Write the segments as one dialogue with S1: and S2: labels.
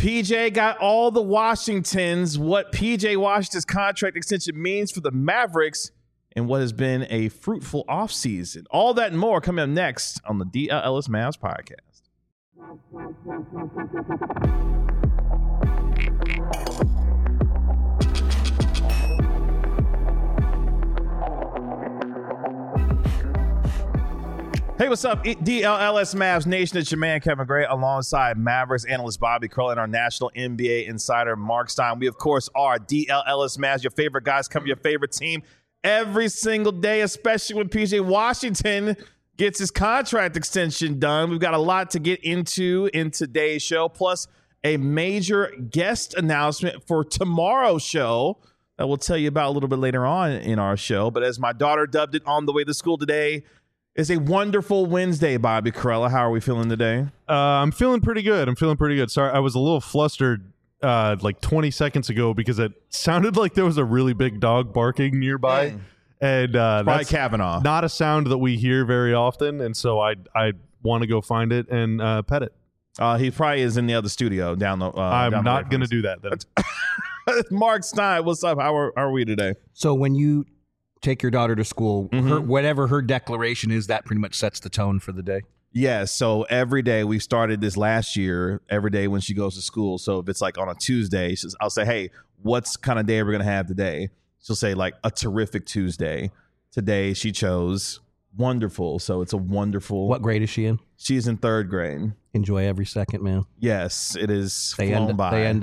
S1: PJ got all the Washingtons, what PJ Washington's contract extension means for the Mavericks, and what has been a fruitful offseason. All that and more coming up next on the DLLS Mavs podcast. Hey, what's up, DLLS Mavs Nation? It's your man, Kevin Gray, alongside Mavericks analyst Bobby Curl and our national NBA insider, Mark Stein. We, of course, are DLLS Mavs, your favorite guys, cover your favorite team every single day, especially when PJ Washington gets his contract extension done. We've got a lot to get into in today's show, plus a major guest announcement for tomorrow's show that we'll tell you about a little bit later on in our show. But as my daughter dubbed it on the way to school today, it's a wonderful Wednesday, Bobby Corella. How are we feeling today?
S2: I'm feeling pretty good. Sorry, I was a little flustered like 20 seconds ago because it sounded like there was a really big dog barking nearby. And that's
S1: Kavanaugh.
S2: Not a sound that we hear very often, and so I want to go find it and pet it.
S1: He probably is in the other studio down the.
S2: I'm not going to do that. Then.
S1: Mark Stein, what's up? How are we today?
S3: So when you take your daughter to school, whatever her declaration is, that pretty much sets the tone for the day.
S1: Yes. So every day, we started this last year, every day when she goes to school. So if it's like on a Tuesday, I'll say, hey, what's kind of day we're going to have today? She'll say like a terrific Tuesday. Today she chose wonderful. So it's a wonderful.
S3: What grade is she in?
S1: She's in third grade.
S3: Enjoy every second, man.
S1: Yes, it is.
S3: They end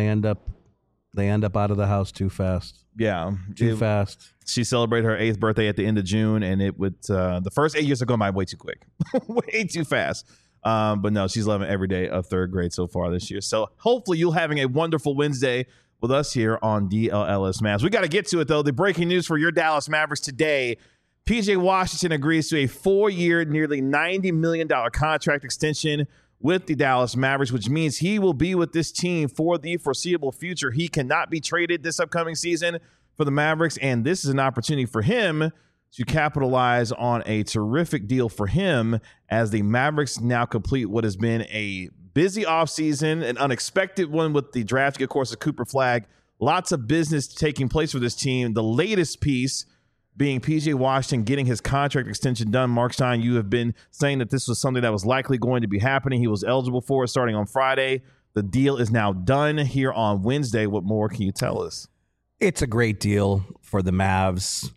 S3: up out of the house too fast.
S1: Yeah.
S3: Too fast.
S1: She celebrated her 8th birthday at the end of June, and it would the first 8 years are going by way too quick. Way too fast. But no, she's loving every day of third grade so far this year. So hopefully you're having a wonderful Wednesday with us here on DLLS Mavs. We got to get to it, though. The breaking news for your Dallas Mavericks today. PJ Washington agrees to a 4-year, nearly $90 million contract extension with the Dallas Mavericks, which means he will be with this team for the foreseeable future. He cannot be traded this upcoming season for the Mavericks, and this is an opportunity for him to capitalize on a terrific deal for him as the Mavericks now complete what has been a busy offseason, an unexpected one with the drafting, of course, of Cooper Flagg. Lots of business taking place for this team. The latest piece being PJ Washington getting his contract extension done. Mark Stein, you have been saying that this was something that was likely going to be happening. He was eligible for it starting on Friday. The deal is now done here on Wednesday. What more can you tell us?
S3: It's a great deal for the Mavs.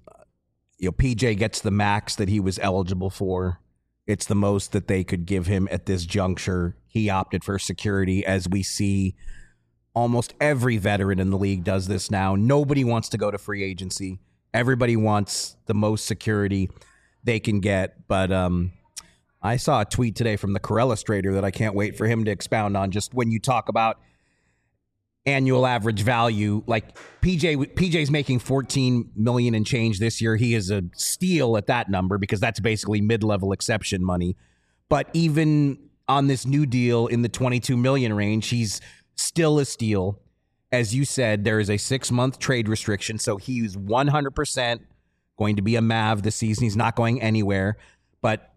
S3: PJ gets the max that he was eligible for. It's the most that they could give him at this juncture. He opted for security, as we see almost every veteran in the league does this now. Nobody wants to go to free agency. Everybody wants the most security they can get. But I saw a tweet today from the Corellustrator that I can't wait for him to expound on. Just when you talk about annual average value, like PJ's making $14 million and change this year. He is a steal at that number because that's basically mid-level exception money. But even on this new deal in the $22 million range, he's still a steal. As you said, there is a 6-month trade restriction, so he's 100% going to be a Mav this season. He's not going anywhere. But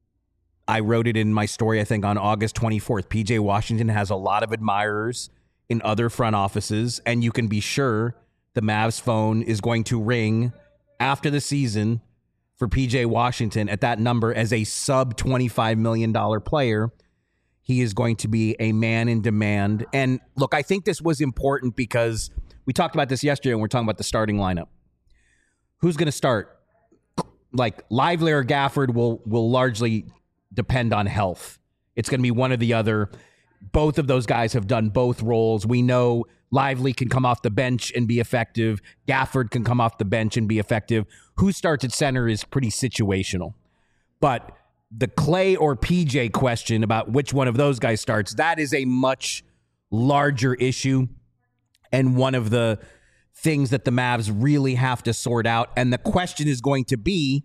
S3: I wrote it in my story, I think, on August 24th. PJ Washington has a lot of admirers in other front offices, and you can be sure the Mavs phone is going to ring after the season for PJ Washington at that number as a sub $25 million player. He is going to be a man in demand. And look, I think this was important because we talked about this yesterday and we're talking about the starting lineup. Who's going to start? Like Lively or Gafford will largely depend on health. It's going to be one or the other. Both of those guys have done both roles. We know Lively can come off the bench and be effective. Gafford can come off the bench and be effective. Who starts at center is pretty situational. But the Clay or PJ question about which one of those guys starts, that is a much larger issue and one of the things that the Mavs really have to sort out. And the question is going to be,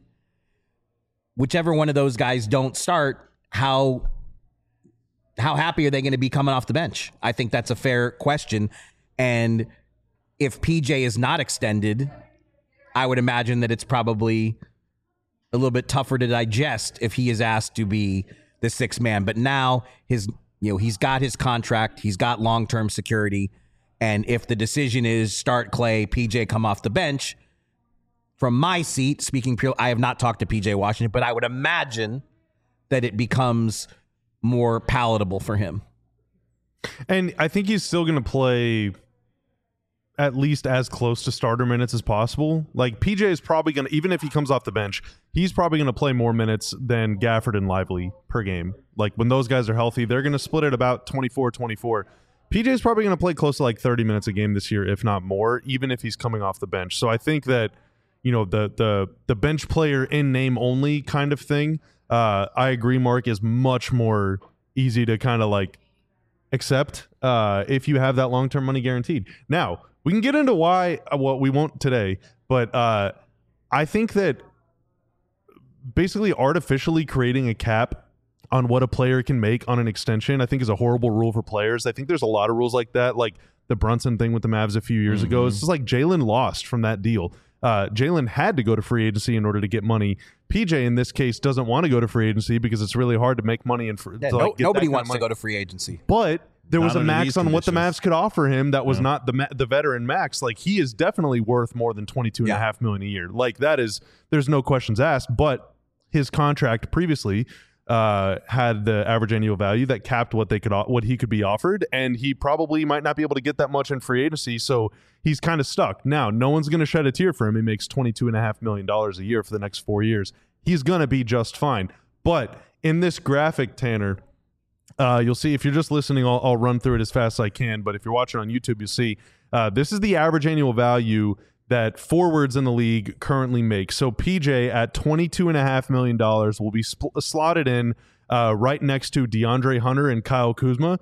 S3: whichever one of those guys don't start, how happy are they going to be coming off the bench? I think that's a fair question. And if PJ is not extended, I would imagine that it's probably a little bit tougher to digest if he is asked to be the sixth man. But now his he's got his contract, he's got long-term security, and if the decision is start Clay, PJ come off the bench, from my seat, speaking purely, I have not talked to PJ Washington, but I would imagine that it becomes more palatable for him.
S2: And I think he's still going to play at least as close to starter minutes as possible. Like, PJ is probably going to, even if he comes off the bench, he's probably going to play more minutes than Gafford and Lively per game. Like, when those guys are healthy, they're going to split it about 24-24. PJ is probably going to play close to like 30 minutes a game this year, if not more, even if he's coming off the bench. So I think that, the bench player in name only kind of thing, I agree, Mark, is much more easy to kind of like accept if you have that long-term money guaranteed. Now, we can get into why, we won't today, but I think that basically artificially creating a cap on what a player can make on an extension, I think is a horrible rule for players. I think there's a lot of rules like that, like the Brunson thing with the Mavs a few years ago. It's just like Jalen lost from that deal. Jalen had to go to free agency in order to get money. PJ, in this case, doesn't want to go to free agency because it's really hard to make money.
S3: Nobody wants to go to free agency.
S2: But there was a max on what the Mavs could offer him that was not the veteran max. Like, he is definitely worth more than $22.5 million a year. Like, there's no questions asked. But his contract previously had the average annual value that capped what he could be offered, and he probably might not be able to get that much in free agency, so he's kind of stuck. Now, no one's going to shed a tear for him. He makes $22.5 million a year for the next 4 years. He's going to be just fine. But in this graphic, Tanner, you'll see, if you're just listening, I'll run through it as fast as I can, but if you're watching on YouTube, you'll see this is the average annual value that forwards in the league currently make. So PJ at $22.5 million will be slotted in right next to DeAndre Hunter and Kyle Kuzma.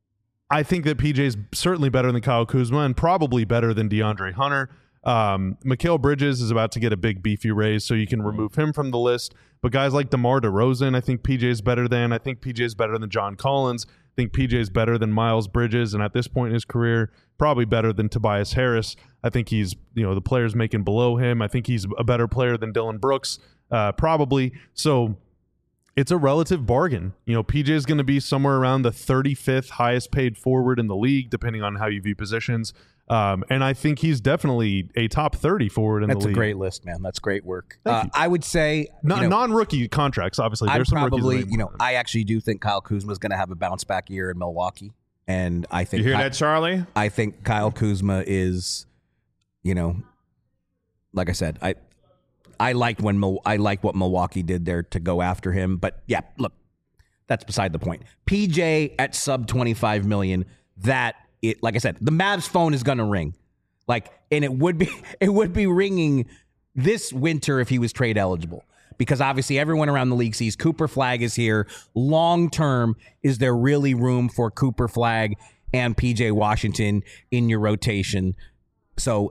S2: I think that PJ is certainly better than Kyle Kuzma and probably better than DeAndre Hunter. Mikal Bridges is about to get a big beefy raise, so you can remove him from the list. But guys like DeMar DeRozan, I think PJ is better than. I think PJ is better than John Collins. I think PJ is better than Miles Bridges, and at this point in his career, probably better than Tobias Harris. I think he's, the players making below him. I think he's a better player than Dylan Brooks, probably. So it's a relative bargain. PJ is going to be somewhere around the 35th highest paid forward in the league, depending on how you view positions. And I think he's definitely a top 30 forward in the league.
S3: That's a great list, man. That's great work. I would say
S2: non-rookie contracts. Obviously, there's some rookies.
S3: I actually do think Kyle Kuzma is going to have a bounce back year in Milwaukee, and I think
S1: you hear that, Charlie?
S3: I think Kyle Kuzma is, like I said, I liked what Milwaukee did there to go after him, but yeah, look, that's beside the point. PJ at sub $25 million. Like I said, the Mavs phone is going to ring. And it would be ringing this winter if he was trade eligible, because obviously everyone around the league sees Cooper Flagg is here. Long term, is there really room for Cooper Flagg and PJ Washington in your rotation? So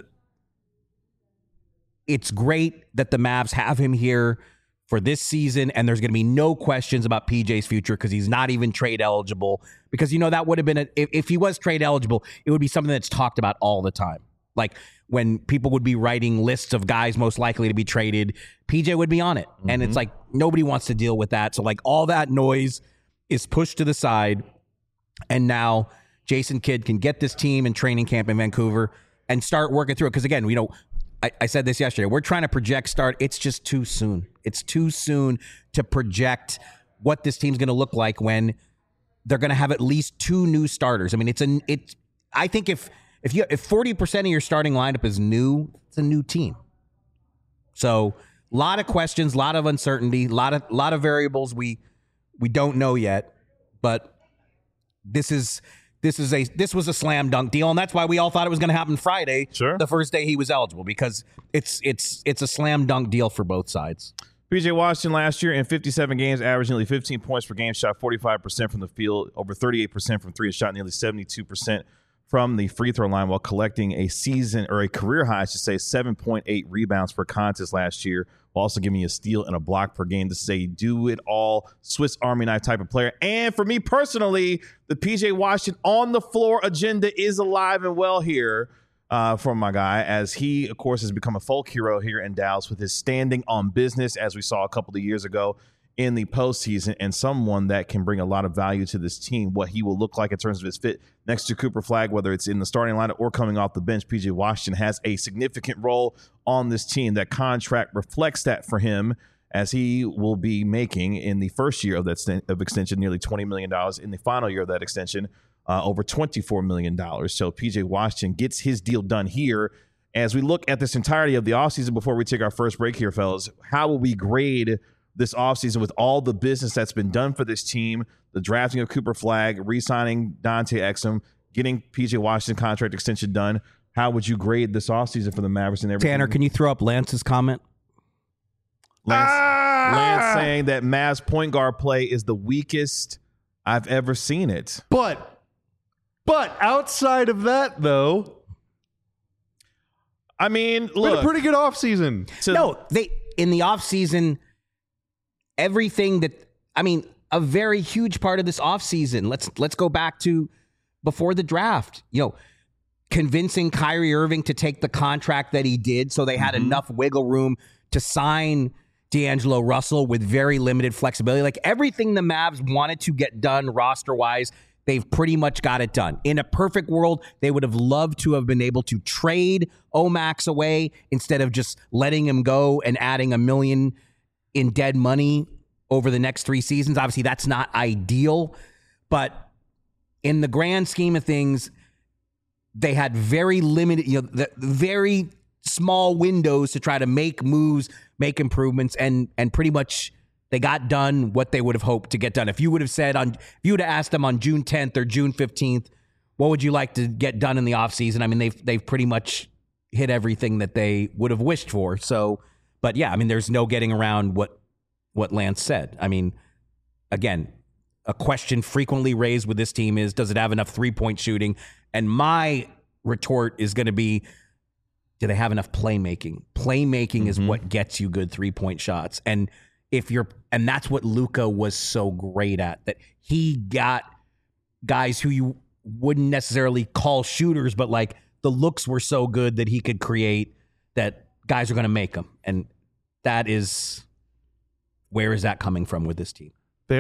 S3: it's great that the Mavs have him here for this season, and there's going to be no questions about PJ's future because he's not even trade eligible. Because, that would have been, if he was trade eligible, it would be something that's talked about all the time. Like when people would be writing lists of guys most likely to be traded, PJ would be on it. Mm-hmm. And it's like, nobody wants to deal with that. So like all that noise is pushed to the side. And now Jason Kidd can get this team in training camp in Vancouver and start working through it. Because again, I said this yesterday. We're trying to project start. It's just too soon. It's too soon to project what this team's going to look like when they're going to have at least two new starters. I mean, I think if 40% of your starting lineup is new, it's a new team. So a lot of questions, a lot of uncertainty, a lot of variables we don't know yet. But this was a slam dunk deal, and that's why we all thought it was going to happen Friday, the first day he was eligible, because it's a slam dunk deal for both sides.
S1: PJ Washington last year in 57 games averaged nearly 15 points per game, shot 45% from the field, over 38% from three, and shot nearly 72% from the free throw line, while collecting a career high, 7.8 rebounds per contest last year, while also giving you a steal and a block per game. This is a do-it-all Swiss Army knife type of player. And for me personally, the PJ Washington on-the-floor agenda is alive and well here for my guy, as he, of course, has become a folk hero here in Dallas with his standing on business, as we saw a couple of years ago in the postseason and someone that can bring a lot of value to this team. What he will look like in terms of his fit next to Cooper Flagg, whether it's in the starting lineup or coming off the bench, PJ Washington has a significant role on this team. That contract reflects that for him, as he will be making in the first year of that of extension nearly $20 million, in the final year of that extension over $24 million. So PJ Washington gets his deal done here. As we look at this entirety of the offseason before we take our first break here, fellas, how will we grade this offseason with all the business that's been done for this team, the drafting of Cooper Flagg, re-signing Dante Exum, getting PJ Washington contract extension done? How would you grade this offseason for the Mavericks and everything?
S3: Tanner, can you throw up Lance's comment?
S1: Lance saying that Mavs point guard play is the weakest I've ever seen it.
S2: But outside of that, I mean, look, been a pretty good offseason.
S3: In the offseason, everything a very huge part of this offseason. Let's go back to before the draft. Convincing Kyrie Irving to take the contract that he did, so they had enough wiggle room to sign D'Angelo Russell with very limited flexibility. Like, everything the Mavs wanted to get done roster-wise, they've pretty much got it done. In a perfect world, they would have loved to have been able to trade Omax away instead of just letting him go and adding $1 million in dead money over the next 3 seasons. Obviously, that's not ideal, but in the grand scheme of things, they had very limited, very small windows to try to make moves, make improvements, and pretty much they got done what they would have hoped to get done. If you would have asked them on June 10th or June 15th, what would you like to get done in the offseason? I mean, they've pretty much hit everything that they would have wished for. So, but yeah, I mean, there's no getting around what Lance said. I mean, again, a question frequently raised with this team is, does it have enough three-point shooting? And my retort is going to be, do they have enough playmaking? Playmaking is what gets you good three-point shots. And that's what Luka was so great at, that he got guys who you wouldn't necessarily call shooters, but like the looks were so good that he could create that guys are going to make them. And that is, where is that coming from with this team?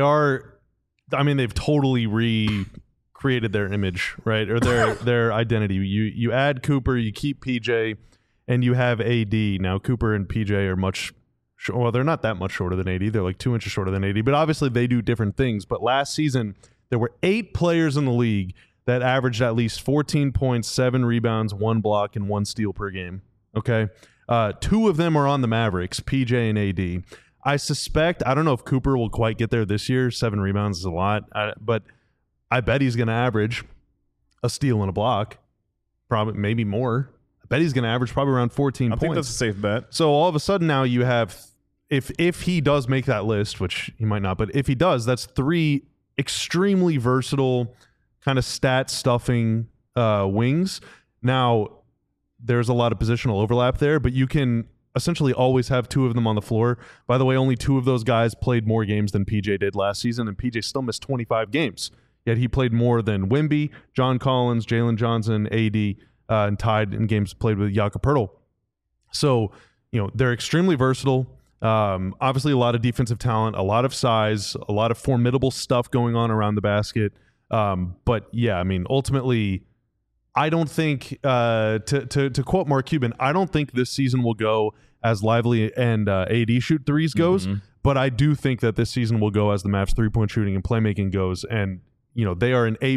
S2: They've totally recreated their image, right? Or their identity. You add Cooper, you keep PJ, and you have AD. Now, Cooper and PJ are they're not that much shorter than AD. They're like 2 inches shorter than AD, but obviously they do different things. But last season, there were 8 players in the league that averaged at least 14 points, 7 rebounds, 1 block, and 1 steal per game. Okay? 2 of them are on the Mavericks, PJ and AD. I suspect, I don't know if Cooper will quite get there this year. 7 rebounds is a lot, but I bet he's going to average a steal and a block, probably maybe more. I bet he's going to average probably around 14 points.
S1: I think that's a safe bet.
S2: So all of a sudden now you have, if he does make that list, which he might not, but if he does, that's 3 extremely versatile kind of stat stuffing wings. Now, there's a lot of positional overlap there, but you can essentially always have 2 of them on the floor. By the way, only 2 of those guys played more games than PJ did last season, and PJ still missed 25 games. Yet he played more than Wemby, John Collins, Jalen Johnson, AD, and tied in games played with Jakob Poeltl. So, they're extremely versatile. Obviously, a lot of defensive talent, a lot of size, a lot of formidable stuff going on around the basket. But yeah, I mean, ultimately, I don't think, to quote Mark Cuban, I don't think this season will go as Lively and AD shoot threes goes, but I do think that this season will go as the Mavs 3-point shooting and playmaking goes. And, they are an A+++++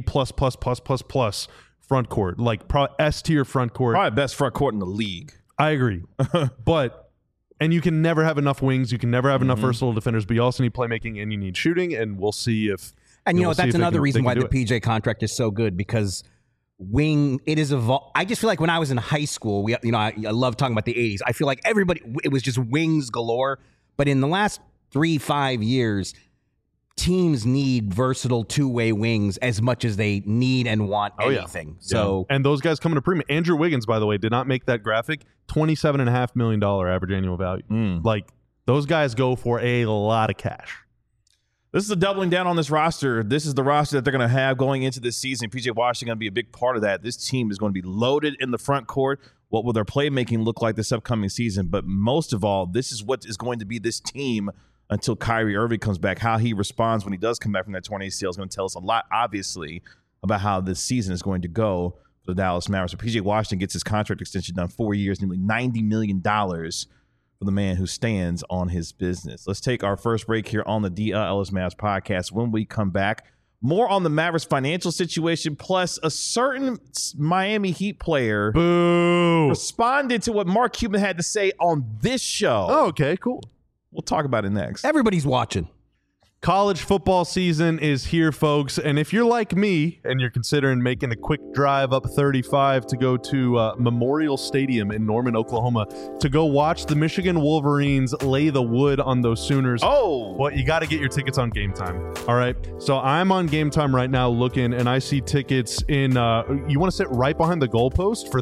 S2: front court, like S-tier front court.
S1: Probably best front court in the league.
S2: I agree. And you can never have enough wings. You can never have enough versatile defenders, but you also need playmaking and you need shooting, and we'll see if...
S3: And that's another reason why the PJ contract is so good, because it is I just feel like when I was in high school, I love talking about the 80s. I feel like it was just wings galore. But in the last 3-5 years, teams need versatile two-way wings as much as they need and want anything.
S2: Yeah.
S3: So,
S2: and those guys come into premium. Andrew Wiggins, by the way, did not make that graphic. $27.5 million average annual value. Like, those guys go for a lot of cash.
S1: This is a doubling down on this roster. This is the roster that they're going to have going into this season. PJ Washington going to be a big part of that. This team is going to be loaded in the front court. What will their playmaking look like this upcoming season? But most of all, this is what is going to be this team until Kyrie Irving comes back. How he responds when he does come back from that torn ACL is going to tell us a lot, obviously, about how this season is going to go for the Dallas Mavericks. So PJ Washington gets his contract extension done, 4 years, nearly $90 million for the man who stands on his business. Let's take our first break here on the DLS Mavs podcast. When we come back, more on the Mavericks financial situation, plus a certain Miami Heat player responded to what Mark Cuban had to say on this show.
S2: Oh, okay, cool.
S1: We'll talk about it next.
S3: Everybody's watching.
S2: College football season is here, folks. And if you're like me and you're considering making a quick drive up 35 to go to Memorial Stadium in Norman, Oklahoma, to go watch the Michigan Wolverines lay the wood on those Sooners.
S1: Oh,
S2: well, you got to get your tickets on Game Time. All right. So I'm on Game Time right now looking, and I see tickets in, you want to sit right behind the goalpost for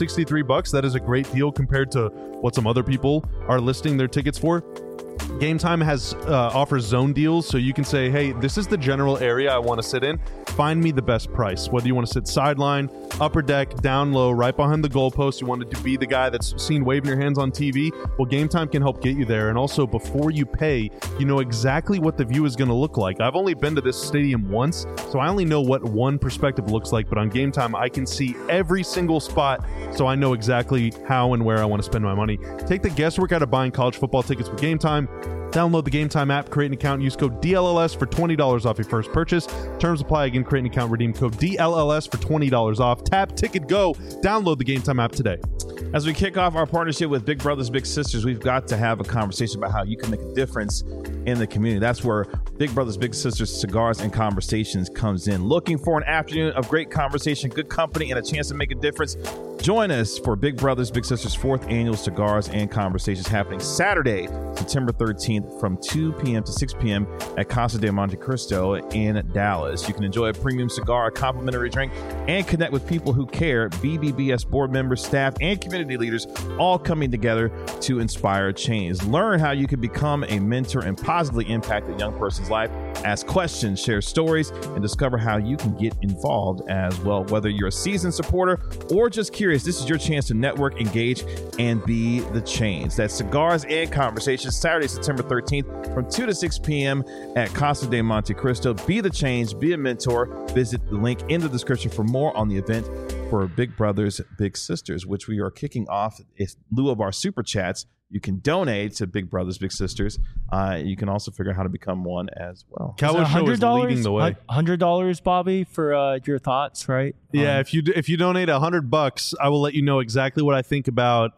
S2: $363. That is a great deal compared to what some other people are listing their tickets for. Game Time has offers zone deals, so you can say, hey, this is the general area I want to sit in. Find me the best price. Whether you want to sit sideline, upper deck, down low, right behind the goalpost, you wanted to be the guy that's seen waving your hands on TV, well, Game Time can help get you there. And also, before you pay, you know exactly what the view is going to look like. I've only been to this stadium once, so I only know what one perspective looks like, but on Game Time, I can see every single spot, so I know exactly how and where I want to spend my money. Take the guesswork out of buying college football tickets with Game Time. Download the Game Time app, create an account, use code DLLS for $20 off your first purchase. Terms apply. Again, create an account, redeem code DLLS for $20 off. Tap, ticket, go. Download the Game Time app today.
S1: As we kick off our partnership with Big Brothers Big Sisters, we've got to have a conversation about how you can make a difference in the community. That's where Big Brothers Big Sisters Cigars and Conversations comes in. Looking for an afternoon of great conversation, good company, and a chance to make a difference? Join us for Big Brothers Big Sisters 4th Annual Cigars and Conversations happening Saturday, September 13th from 2 p.m. to 6 p.m. at Casa de Monte Cristo in Dallas. You can enjoy a premium cigar, a complimentary drink, and connect with people who care. BBBS board members, staff, and community leaders all coming together to inspire change. Learn how you can become a mentor and positively impact a young person's life. Ask questions, share stories, and discover how you can get involved as well. Whether you're a seasoned supporter or just curious, this is your chance to network, engage, and be the change. That's Cigars and Conversations, Saturday, September 13th from 2 to 6 p.m. at Casa de Monte Cristo. Be the change, be a mentor. Visit the link in the description for more on the event for Big Brothers Big Sisters, which we are kicking off in lieu of our super chats. You can donate to Big Brothers Big Sisters. You can also figure out how to become one as well.
S2: Cowboy Show is leading the way.
S4: $100, Bobby, for your thoughts, right?
S2: Yeah, if you donate $100, I will let you know exactly what I think about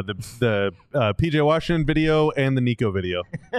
S2: the PJ Washington video and the Nico video.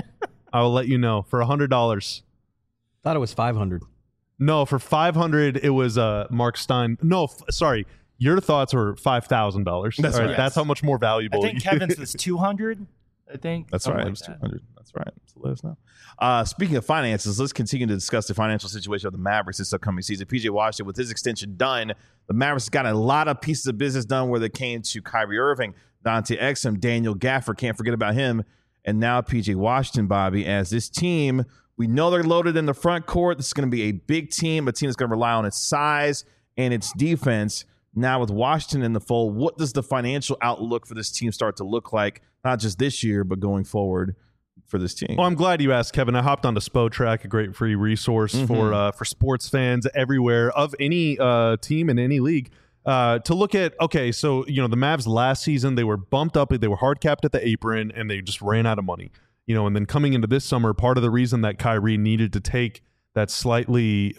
S2: I will let you know for $100.
S3: Thought it was $500.
S2: No, for $500 it was Mark Stein. No, sorry. Your thoughts were $5,000.
S1: That's right.
S2: That's how much more valuable.
S4: I think Kevin's was $200. I think
S1: that's right. It was $200. That's right. So let us know. Speaking of finances, let's continue to discuss the financial situation of the Mavericks this upcoming season. PJ Washington, with his extension done, the Mavericks got a lot of pieces of business done where they came to Kyrie Irving, Dante Exum, Daniel Gafford. Can't forget about him. And now PJ Washington, Bobby, as this team, we know they're loaded in the front court. This is going to be a big team, a team that's going to rely on its size and its defense. Now with Washington in the fold, what does the financial outlook for this team start to look like, not just this year, but going forward for this team?
S2: Well, I'm glad you asked, Kevin. I hopped onto SpoTrack, a great free resource for sports fans everywhere of any team in any league to look at. Okay, so the Mavs last season, they were bumped up, they were hard capped at the apron, and they just ran out of money. And then coming into this summer, part of the reason that Kyrie needed to take that slightly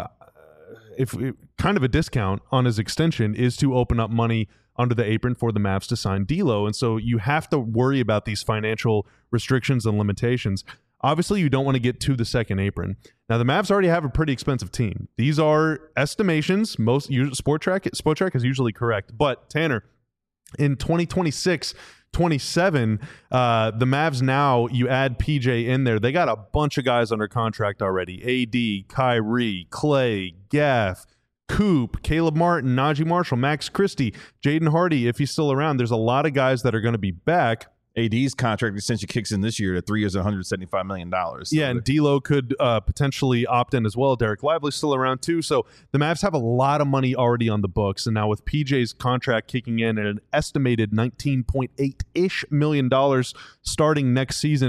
S2: kind of a discount on his extension is to open up money under the apron for the Mavs to sign D'Lo. And so you have to worry about these financial restrictions and limitations. Obviously, you don't want to get to the second apron. Now, the Mavs already have a pretty expensive team. These are estimations. Most SpoTrack is usually correct. But Tanner, in 2026, 27, the Mavs now, you add PJ in there. They got a bunch of guys under contract already. AD, Kyrie, Clay, Gaff, Coop, Caleb Martin, Najee Marshall, Max Christie, Jaden Hardy, if he's still around. There's a lot of guys that are going to be back.
S1: AD's contract essentially kicks in this year to 3 years, $175 million. So
S2: yeah, and D'Lo could potentially opt in as well. Derek Lively's still around too. So the Mavs have a lot of money already on the books. And now with PJ's contract kicking in at an estimated $19.8-ish million starting next season,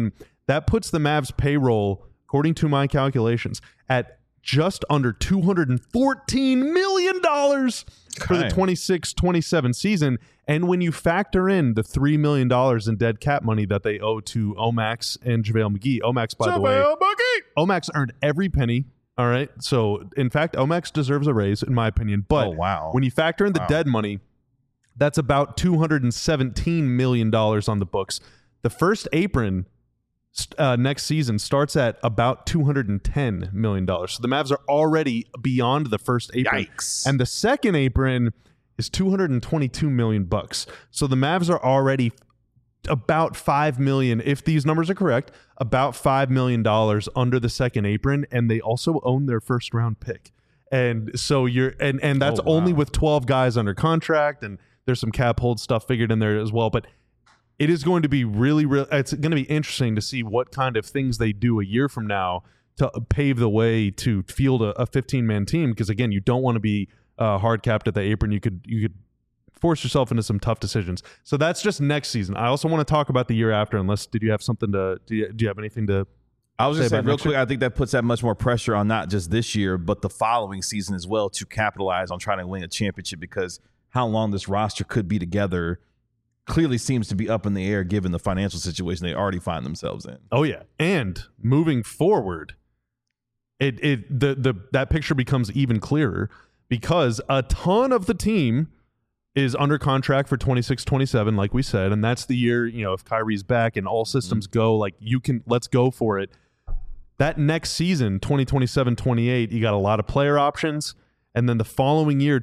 S2: That puts the Mavs payroll, according to my calculations, at just under $214 million for the 26-27 season. And when you factor in the $3 million in dead cap money that they owe to Omax and JaVale McGee, Omax, by the way, Omax earned every penny. All right. So, in fact, Omax deserves a raise, in my opinion. But when you factor in the dead money, that's about $217 million on the books. The first apron next season starts at about $210 million. So the Mavs are already beyond the first apron.
S1: Yikes.
S2: And the second apron is $222 million. So the Mavs are already about $5 million, if these numbers are correct, about $5 million under the second apron, and they also own their first round pick. And so and that's only with 12 guys under contract, and there's some cap hold stuff figured in there as well. But it is going to be it's going to be interesting to see what kind of things they do a year from now to pave the way to field a 15-man team. Because again, you don't want to be hard capped at the apron. You could force yourself into some tough decisions. So that's just next season. I also want to talk about the year after. Did you have something do you have anything to?
S1: I was just saying real quick, I think that puts that much more pressure on not just this year, but the following season as well to capitalize on trying to win a championship, because how long this roster could be together clearly seems to be up in the air given the financial situation they already find themselves in.
S2: Oh yeah. And moving forward, that picture becomes even clearer because a ton of the team is under contract for 26-27, like we said, and that's the year, if Kyrie's back and all systems go, like let's go for it. That next season, 2027-28, you got a lot of player options, and then the following year,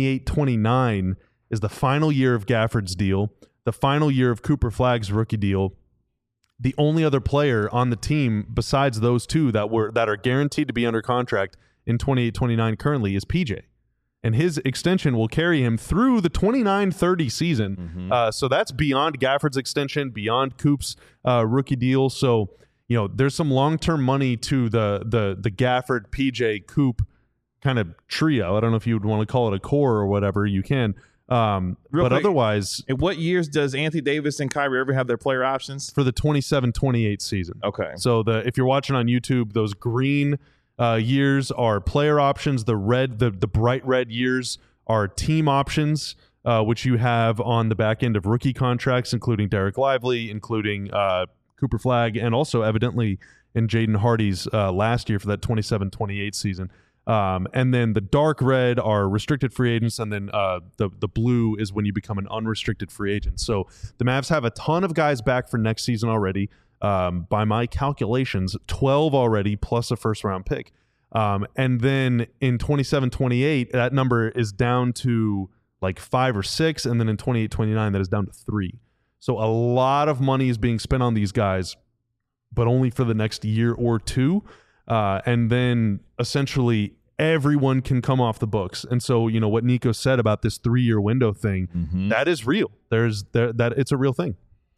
S2: 28-29, is the final year of Gafford's deal, the final year of Cooper Flagg's rookie deal. The only other player on the team besides those two that are guaranteed to be under contract in 28-29 currently is PJ. And his extension will carry him through the 29-30 season. So that's beyond Gafford's extension, beyond Coop's rookie deal. So, there's some long-term money to the Gafford, PJ, Coop kind of trio. I don't know if you would want to call it a core or whatever. You can. But quick, otherwise...
S1: In what years does Anthony Davis and Kyrie Irving have their player options?
S2: For the 27-28 season.
S1: Okay.
S2: So if you're watching on YouTube, those green... years are player options. The bright red years are team options, which you have on the back end of rookie contracts, including Derek Lively, including Cooper Flagg, and also evidently in Jaden Hardy's last year for that 27-28 season. And then the dark red are restricted free agents, and then the blue is when you become an unrestricted free agent. So the Mavs have a ton of guys back for next season already. By my calculations, 12 already, plus a first-round pick. And then in 27-28, that number is down to like 5 or 6, and then in 28-29, that is down to 3. So a lot of money is being spent on these guys, but only for the next year or two. And then essentially everyone can come off the books. And so, what Nico said about this 3-year window thing, that is real. It's a real thing.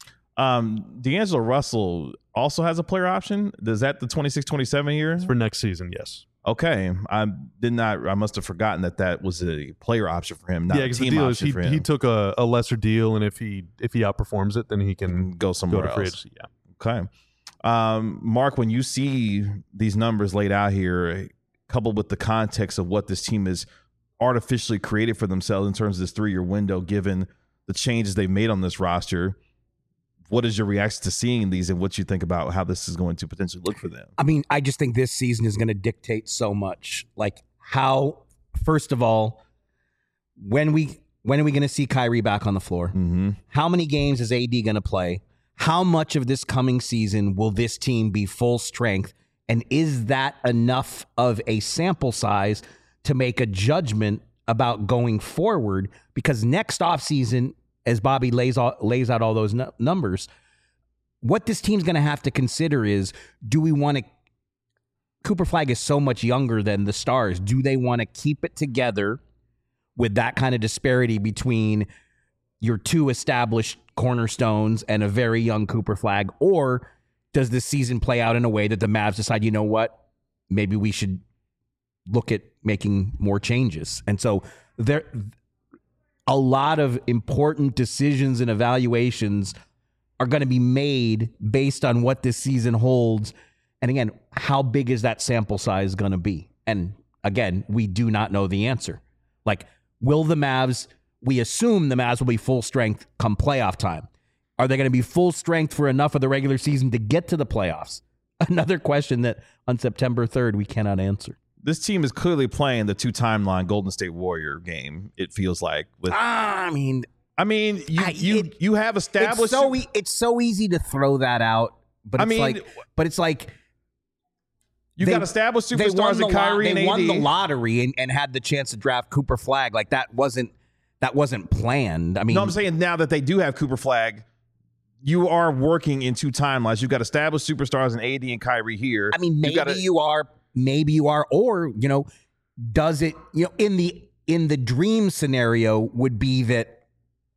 S1: D'Angelo Russell also has a player option. Is that the 26-27 year?
S2: It's for next season, yes.
S1: Okay. I must have forgotten that was a player option for him, not a team option for him.
S2: He took a lesser deal, and if he outperforms it, then he can
S1: go somewhere else.
S2: Yeah.
S1: Okay. Mark, when you see these numbers laid out here, coupled with the context of what this team has artificially created for themselves in terms of this 3-year window, given the changes they've made on this roster, what is your reaction to seeing these, and what you think about how this is going to potentially look for them?
S3: I mean, I just think this season is going to dictate so much. Like how, first of all, when are we going to see Kyrie back on the floor? How many games is AD going to play? How much of this coming season will this team be full strength? And is that enough of a sample size to make a judgment about going forward? Because next offseason, as Bobby lays out all those numbers, what this team's going to have to consider is, do we want to... Cooper Flagg is so much younger than the stars. Do they want to keep it together with that kind of disparity between your two established cornerstones and a very young Cooper Flagg? Or does this season play out in a way that the Mavs decide, you know what, maybe we should look at making more changes? And so a lot of important decisions and evaluations are going to be made based on what this season holds. And again, how big is that sample size going to be? And again, we do not know the answer. Like, will the Mavs, we assume the Mavs will be full strength come playoff time. Are they going to be full strength for enough of the regular season to get to the playoffs? Another question that on September 3rd, we cannot answer.
S1: This team is clearly playing the 2-timeline Golden State Warrior game, it feels like. With
S3: I mean,
S1: you have established.
S3: It's so easy to throw that out, but it's like
S1: you got established superstars in Kyrie and AD.
S3: They won the lottery and had the chance to draft Cooper Flagg. Like that wasn't planned. I mean,
S1: no, I'm saying now that they do have Cooper Flagg, you are working in 2 timelines. You've got established superstars in AD and Kyrie here.
S3: I mean, maybe you are, or does it? In the dream scenario would be that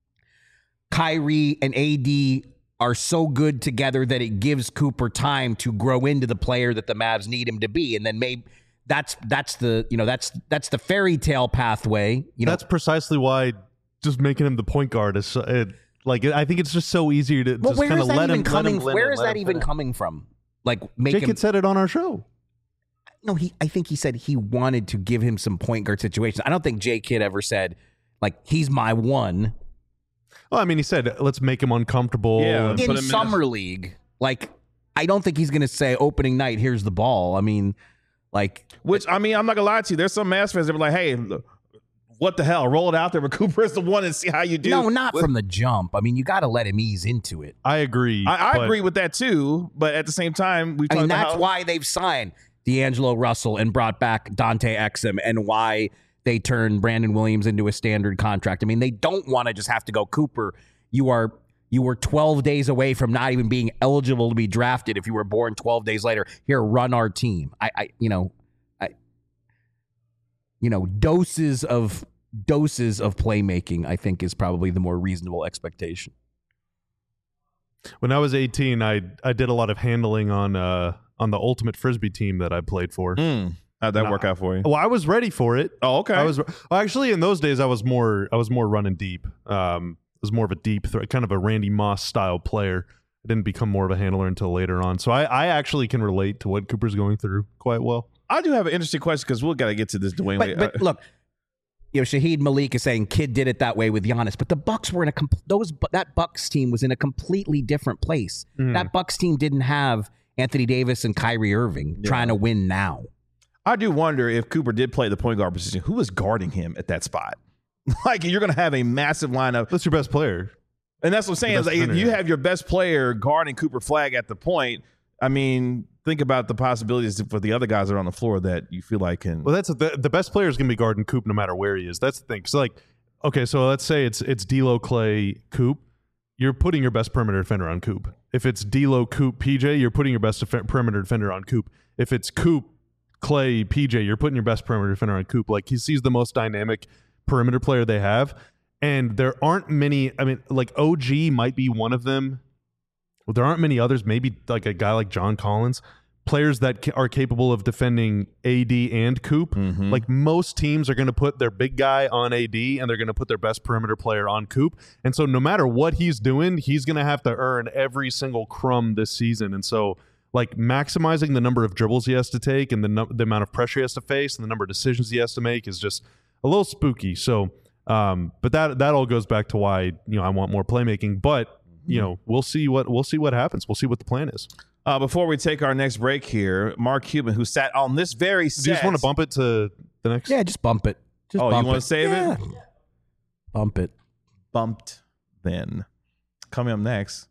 S3: Kyrie and AD are so good together that it gives Cooper time to grow into the player that the Mavs need him to be, and then maybe that's the fairy tale pathway.
S2: That's precisely why just making him the point guard is I think it's just so easier to just kind of let him.
S3: Where is that even coming from? Like,
S2: Jake had said it on our show.
S3: No, I think he said he wanted to give him some point guard situations. I don't think Jay Kidd ever said, like, he's my one.
S2: Well, I mean, he said, let's make him uncomfortable.
S1: Yeah,
S3: in Summer League. Like, I don't think he's going to say opening night, here's the ball. I mean, like.
S1: Which, I mean, I'm not going to lie to you. There's some Mavs fans that were like, hey, what the hell? Roll it out there, but Cooper is the one and see how you do.
S3: No, not from the jump. I mean, you got to let him ease into it.
S2: I agree.
S1: I agree with that, too. But at the same time,
S3: that's why they've signed D'Angelo Russell and brought back Dante Exum, and why they turned Brandon Williams into a standard contract. I mean, they don't want to just have to go, Cooper, you were 12 days away from not even being eligible to be drafted if you were born 12 days later. Here, run our team. Doses of playmaking, I think, is probably the more reasonable expectation.
S2: When I was 18, I did a lot of handling on the Ultimate Frisbee team that I played for.
S1: How'd that work out for you?
S2: Well, I was ready for it.
S1: Oh, okay.
S2: Actually, in those days, I was more running deep. I was more of a deep threat, kind of a Randy Moss style player. I didn't become more of a handler until later on. So I actually can relate to what Cooper's going through quite well.
S1: I do have an interesting question because we'll got to get to this Dwayne Wade.
S3: But look, Shaheed Malik is saying Kidd did it that way with Giannis, but the Bucks were that Bucks team was in a completely different place. That Bucks team didn't have Anthony Davis and Kyrie Irving trying to win now.
S1: I do wonder if Cooper did play the point guard position, who was guarding him at that spot? Like, you're going to have a massive lineup.
S2: That's your best player.
S1: And that's what I'm saying. Is like, if you have your best player guarding Cooper Flagg at the point, I mean, think about the possibilities for the other guys that are on the floor that you feel like can.
S2: Well, that's the best player is going to be guarding Coop no matter where he is. That's the thing. So, like, okay, so let's say it's D'Lo, Clay, Coop. You're putting your best perimeter defender on Coop. If it's D'Lo, Coop, PJ, you're putting your best perimeter defender on Coop. If it's Coop, Clay, PJ, you're putting your best perimeter defender on Coop. Like, he's the most dynamic perimeter player they have. And there aren't many, I mean, like OG might be one of them. Well, there aren't many others, maybe like a guy like John Collins, players that are capable of defending AD and Coop. Like, most teams are going to put their big guy on AD and they're going to put their best perimeter player on Coop. And so no matter what he's doing, he's going to have to earn every single crumb this season. And so, like, maximizing the number of dribbles he has to take and the amount of pressure he has to face and the number of decisions he has to make is just a little spooky. So, but that all goes back to why, I want more playmaking. But we'll see what happens. We'll see what the plan is.
S1: Before we take our next break here, Mark Cuban, who sat on this very set.
S2: Do you just want to bump it to the next?
S3: Yeah, just bump it.
S1: You want to save it?
S3: Bump it.
S1: Bumped then. Coming up next,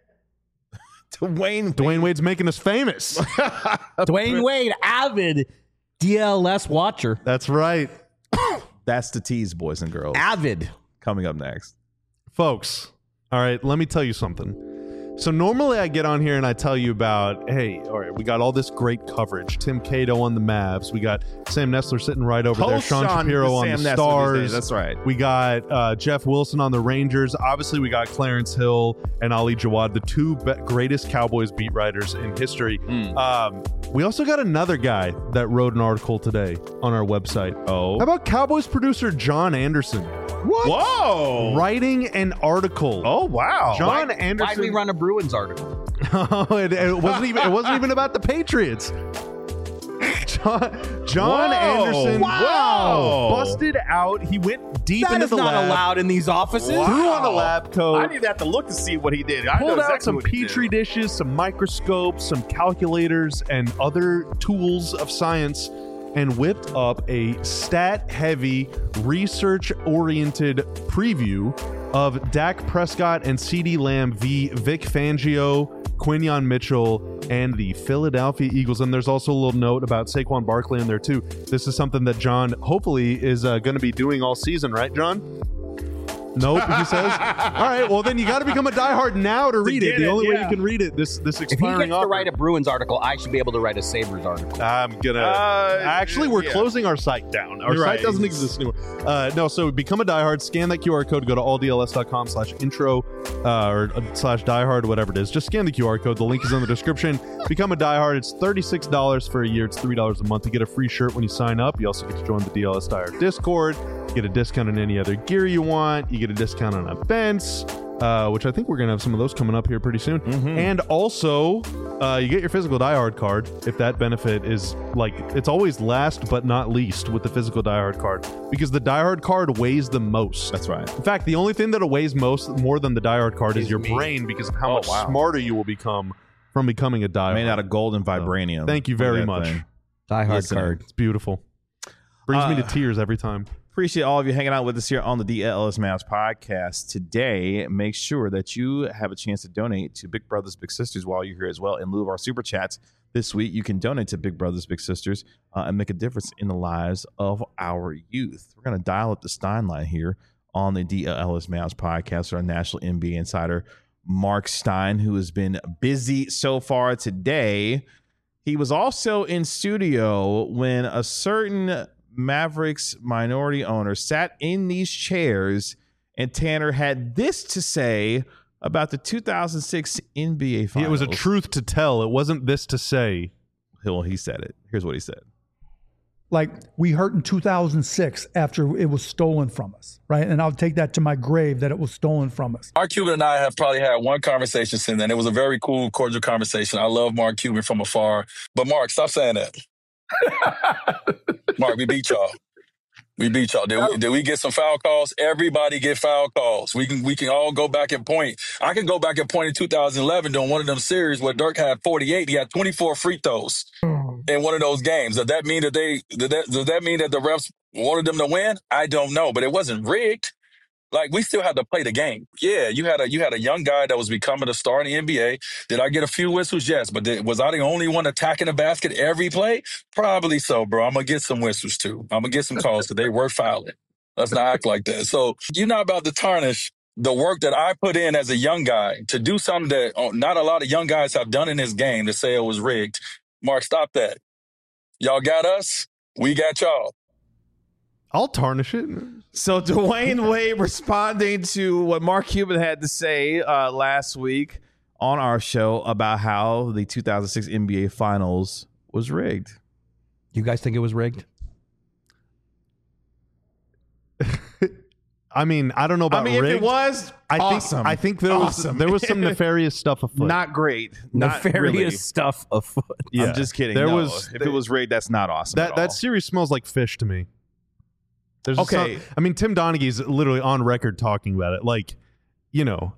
S2: Dwayne Wade's making us famous.
S3: Dwayne Wade, avid DLS watcher.
S2: That's right.
S1: That's the tease, boys and girls.
S3: Avid.
S1: Coming up next.
S2: Folks, all right, let me tell you something. So normally I get on here and I tell you about, hey, all right, we got all this great coverage. Tim Cato on the Mavs. We got Sam Nessler sitting right over there. Sean Shapiro on the Stars.
S1: That's right.
S2: We got Jeff Wilson on the Rangers. Obviously, we got Clarence Hill and Ali Jawad, the two greatest Cowboys beat writers in history. We also got another guy that wrote an article today on our website.
S1: Oh.
S2: How about Cowboys producer John Anderson? What?
S1: Whoa!
S2: Writing an article.
S1: Oh wow!
S2: John Anderson.
S3: Why'd we run a Bruins article?
S2: it wasn't even about the Patriots. John Anderson busted out. He went deep into the lab.
S3: That is not allowed in these offices.
S2: Threw on the lab coat.
S1: I didn't have to look to see what he did.
S2: Pulled out some petri dishes, some microscopes, some calculators, and other tools of science, and whipped up a stat-heavy, research-oriented preview of Dak Prescott and CeeDee Lamb v. Vic Fangio, Quinyon Mitchell, and the Philadelphia Eagles. And there's also a little note about Saquon Barkley in there, too. This is something that John, hopefully, is going to be doing all season, right, John? Nope, he says. All right, well, then you got to become a diehard now to read it. The only way you can read it, this expiring
S3: If he gets
S2: offer.
S3: to write a Bruins article, I should be able to write a Sabres article.
S2: I'm gonna. Actually, we're closing our site down. Our site doesn't exist anymore. No, so become a diehard. Scan that QR code. Go to alldls.com/intro or /diehard, whatever it is. Just scan the QR code. The link is in the description. Become a diehard. It's $36 for a year. It's $3 a month. You get a free shirt when you sign up. You also get to join the DLS Diehard Discord. You get a discount on any other gear you want. You get a discount on events, which I think we're going to have some of those coming up here pretty soon. And also, you get your physical diehard card if that benefit is it's always last but not least with the physical diehard card, because the diehard card weighs the most.
S1: That's right.
S2: In fact, the only thing that weighs more than the diehard card is your brain, because of how much smarter you will become from becoming a diehard.
S1: Made out of gold and vibranium.
S2: Thank you very much.
S3: Diehard card.
S2: It's beautiful. Brings me to tears every time.
S1: Appreciate all of you hanging out with us here on the DLS Mavs podcast today. Make sure that you have a chance to donate to Big Brothers Big Sisters while you're here as well. In lieu of our super chats this week, you can donate to Big Brothers Big Sisters and make a difference in the lives of our youth. We're going to dial up the Stein line here on the DLS Mavs podcast with our national NBA insider Mark Stein, who has been busy so far today. He was also in studio when a certain Mavericks minority owner sat in these chairs, and Tanner had this to say about the 2006 NBA Finals.
S2: It was a truth to tell. It wasn't this to say.
S1: Well, he said it. Here's what he said.
S5: Like, we hurt in 2006 after it was stolen from us, right? And I'll take that to my grave that it was stolen from us.
S6: Mark Cuban and I have probably had one conversation since then. It was a very cool, cordial conversation. I love Mark Cuban from afar. But Mark, stop saying that. Mark, we beat y'all. We beat y'all. Did we get some foul calls? Everybody get foul calls. We can all go back and point. I can go back and point in 2011 during one of them series where Dirk had 48. He had 24 free throws in one of those games. Does that mean that the refs wanted them to win? I don't know, but it wasn't rigged. Like, we still had to play the game. Yeah, you had a young guy that was becoming a star in the NBA. Did I get a few whistles? Yes. But was I the only one attacking the basket every play? Probably so, bro. I'm going to get some whistles, too. I'm going to get some calls because they were fouling. Let's not act like that. So you're not about to tarnish the work that I put in as a young guy to do something that not a lot of young guys have done in this game to say it was rigged. Mark, stop that. Y'all got us. We got y'all.
S2: I'll tarnish it.
S1: So Dwayne Wade responding to what Mark Cuban had to say last week on our show about how the 2006 NBA Finals was rigged.
S3: You guys think it was rigged?
S2: I mean, I don't know about rigged.
S1: If it was,
S2: I think there was some nefarious stuff afoot.
S1: Not great.
S3: Nefarious
S1: really.
S3: stuff afoot.
S2: Yeah.
S1: I'm just kidding. If it was rigged, that's not awesome.
S2: That series smells like fish to me. There's
S1: okay.
S2: I mean, Tim Donaghy's literally on record talking about it. Like, you know.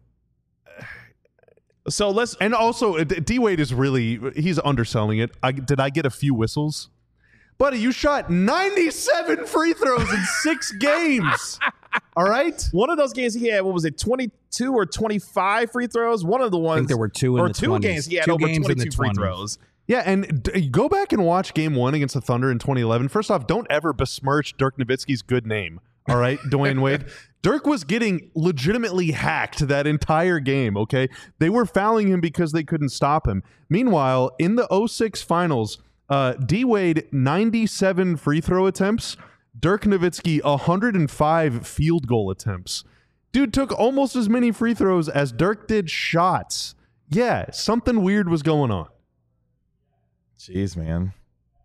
S1: So let's.
S2: And also, D Wade is he's underselling it. Did I get a few whistles? Buddy, you shot 97 free throws in 6 games. All right?
S1: One of those games he had, 22 or 25 free throws? One of the ones.
S3: I think there were two in the
S1: 2 games he had
S3: 2
S1: over
S3: games
S1: 22 free throws.
S2: Yeah, and go back and watch Game 1 against the Thunder in 2011. First off, don't ever besmirch Dirk Nowitzki's good name. All right, Dwayne Wade. Dirk was getting legitimately hacked that entire game, okay? They were fouling him because they couldn't stop him. Meanwhile, in the 06 finals, D-Wade, 97 free throw attempts. Dirk Nowitzki, 105 field goal attempts. Dude took almost as many free throws as Dirk did shots. Yeah, something weird was going on.
S1: Jeez, man.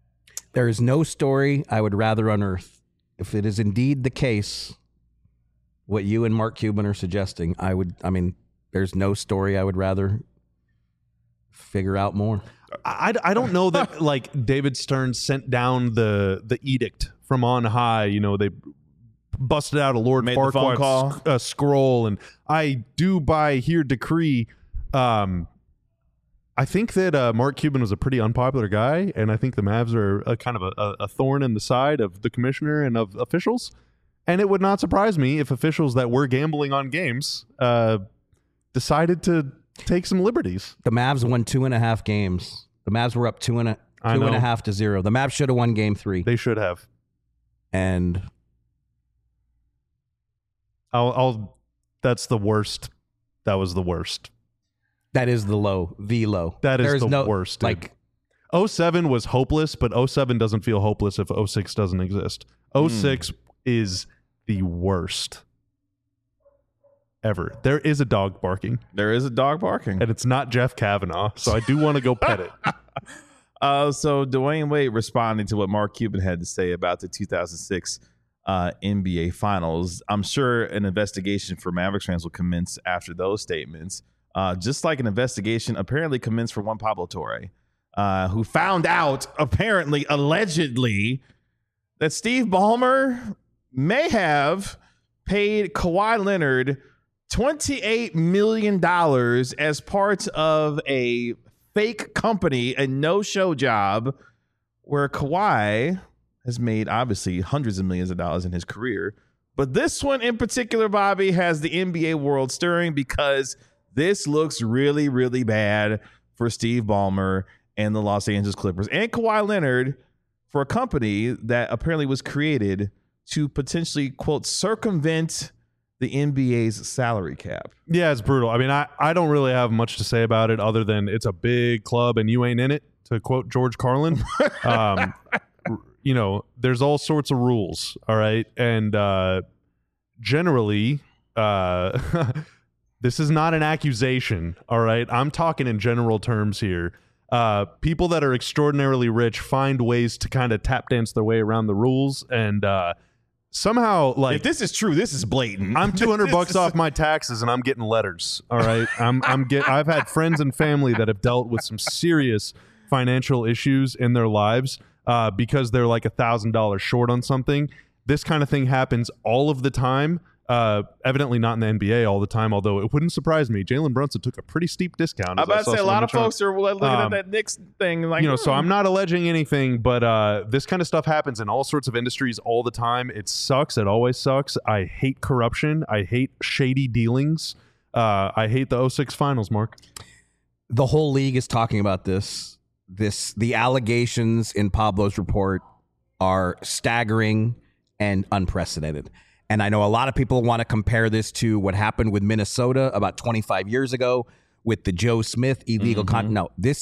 S3: There is no story I would rather unearth. If it is indeed the case what you and Mark Cuban are suggesting. There's no story I would rather figure out more.
S2: I don't know that like David Stern sent down the edict from on high. You know, they busted out a Lord Farquaad scroll, and I do by here decree. I think that Mark Cuban was a pretty unpopular guy, and I think the Mavs are a kind of a thorn in the side of the commissioner and of officials. And it would not surprise me if officials that were gambling on games decided to take some liberties.
S3: The Mavs won 2.5 games. The Mavs were up 2.5 to 0. The Mavs should have won game 3.
S2: They should have.
S3: And
S2: that's the worst. That was the worst.
S3: That is the low.
S2: That is the worst. Dude.
S3: Like
S2: 07 was hopeless, but 07 doesn't feel hopeless if 06 doesn't exist. 06 is the worst ever. There is a dog barking. And it's not Jeff Kavanaugh, so I do want to go pet it.
S1: So Dwayne Wade responding to what Mark Cuban had to say about the 2006 NBA Finals. I'm sure an investigation for Mavericks fans will commence after those statements. Just like an investigation apparently commenced for one Pablo Torre, who found out, apparently, allegedly, that Steve Ballmer may have paid Kawhi Leonard $28 million as part of a fake company, a no-show job, where Kawhi has made, obviously, hundreds of millions of dollars in his career. But this one in particular, Bobby, has the NBA world stirring because this looks really, really bad for Steve Ballmer and the Los Angeles Clippers and Kawhi Leonard for a company that apparently was created to potentially, quote, circumvent the NBA's salary cap.
S2: Yeah, it's brutal. I mean, I don't really have much to say about it other than it's a big club and you ain't in it, to quote George Carlin. You know, there's all sorts of rules, all right? And generally, this is not an accusation, all right? I'm talking in general terms here. People that are extraordinarily rich find ways to kind of tap dance their way around the rules, and somehow, like,
S1: if this is true, this is blatant.
S2: I'm $200 off my taxes, and I'm getting letters. All right, I've had friends and family that have dealt with some serious financial issues in their lives because they're like $1,000 short on something. This kind of thing happens all of the time. Evidently not in the NBA all the time, although it wouldn't surprise me. Jalen Brunson took a pretty steep discount.
S1: I'm about to say a lot of folks are looking at that Knicks thing. Like,
S2: you know, so I'm not alleging anything, but this kind of stuff happens in all sorts of industries all the time. It sucks. It always sucks. I hate corruption. I hate shady dealings. I hate the 06 finals, Mark.
S3: The whole league is talking about this. The allegations in Pablo's report are staggering and unprecedented. And I know a lot of people want to compare this to what happened with Minnesota about 25 years ago with the Joe Smith illegal content. No, this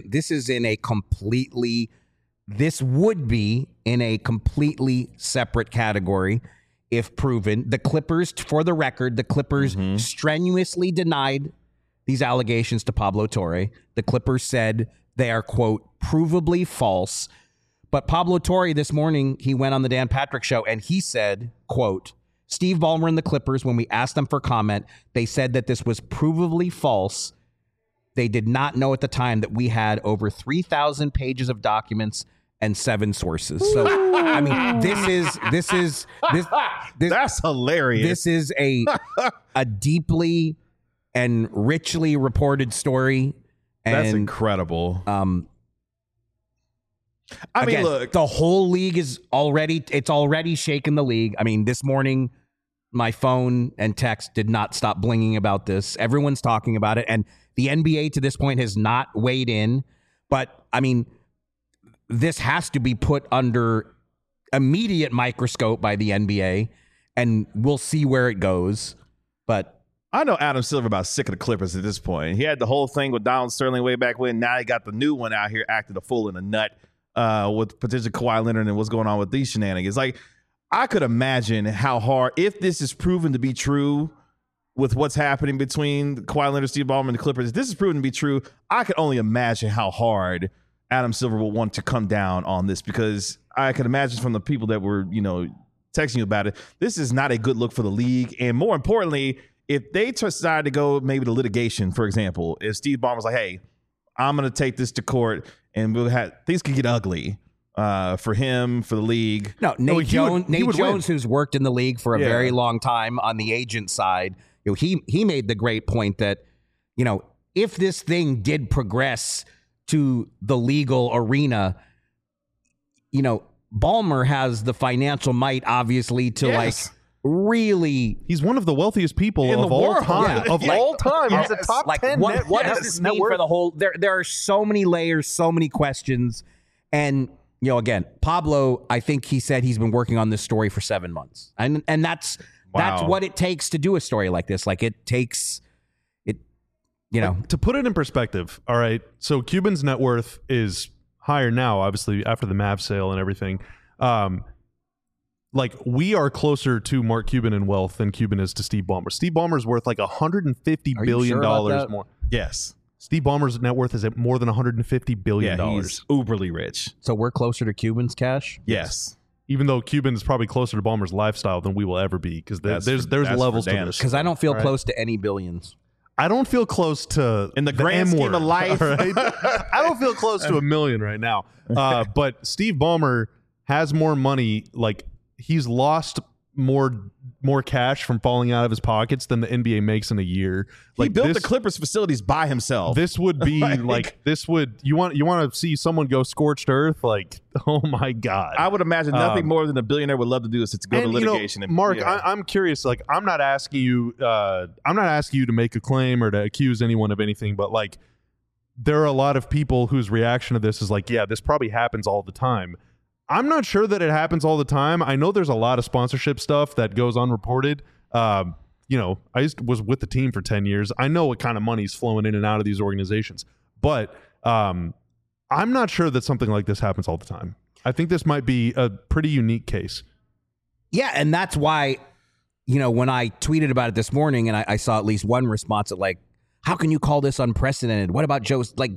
S3: would be in a completely separate category if proven. The Clippers, for the record, strenuously denied these allegations to Pablo Torre. The Clippers said they are, quote, provably false. But Pablo Torre this morning, he went on the Dan Patrick Show and he said, quote, Steve Ballmer and the Clippers, when we asked them for comment, they said that this was provably false. They did not know at the time that we had over 3,000 pages of documents and 7 sources. So, I mean, this
S1: that's hilarious.
S3: This is a deeply and richly reported story. And,
S1: that's incredible.
S3: I mean, look, the whole league is already shaken the league. I mean, this morning, my phone and text did not stop blinging about this. Everyone's talking about it. And the NBA to this point has not weighed in. But I mean, this has to be put under immediate microscope by the NBA, and we'll see where it goes. But
S1: I know Adam Silver about sick of the Clippers at this point. He had the whole thing with Donald Sterling way back when. Now he got the new one out here acting a fool and a nut. With potential Kawhi Leonard and what's going on with these shenanigans. Like, I could imagine how hard, if this is proven to be true with what's happening between Kawhi Leonard, Steve Ballmer, and the Clippers, if this is proven to be true, I could only imagine how hard Adam Silver will want to come down on this, because I could imagine from the people that were, you know, texting you about it. This is not a good look for the league. And more importantly, if they decide to go maybe to litigation, for example, if Steve Ballmer's like, hey, I'm going to take this to court and things could get ugly for him, for the league.
S3: No, Nate Jones, who's worked in the league for a very long time on the agent side, he made the great point that, if this thing did progress to the legal arena, Ballmer has the financial might, obviously, to really.
S2: He's one of the wealthiest people of all time.
S3: Yeah.
S2: Of all time, he's a top 10.
S3: What does this mean for the whole? There are so many layers, so many questions, and again, Pablo. I think he said he's been working on this story for 7 months, and that's what it takes to do a story like this. Like it takes it,
S2: To put it in perspective, all right. So Cuban's net worth is higher now, obviously after the Mavs sale and everything. We are closer to Mark Cuban in wealth than Cuban is to Steve Ballmer. Steve Ballmer's worth like $150 billion more.
S1: Yes.
S2: Steve Ballmer's net worth is at more than $150 billion.
S1: Yeah, he's uberly rich.
S3: So we're closer to Cuban's cash?
S1: Yes.
S2: Even though Cuban's probably closer to Ballmer's lifestyle than we will ever be, because there's levels to this.
S3: Because I don't feel close to any billions.
S2: I don't feel close to
S1: in the grand scheme of life.
S2: Right? I don't feel close to $1 million right now. But Steve Ballmer has more money. Like he's lost more cash from falling out of his pockets than the NBA makes in a year.
S1: He built the Clippers facilities by himself.
S2: This would be you want to see someone go scorched earth? Like, oh my God.
S1: I would imagine nothing more than a billionaire would love to do is to go to litigation.
S2: Mark, I'm curious. Like, I'm not asking you to make a claim or to accuse anyone of anything, but like, there are a lot of people whose reaction to this is like, yeah, this probably happens all the time. I'm not sure that it happens all the time. I know there's a lot of sponsorship stuff that goes unreported. I was with the team for 10 years. I know what kind of money's flowing in and out of these organizations. But I'm not sure that something like this happens all the time. I think this might be a pretty unique case.
S3: Yeah, and that's why, when I tweeted about it this morning and I saw at least one response at like, how can you call this unprecedented? What about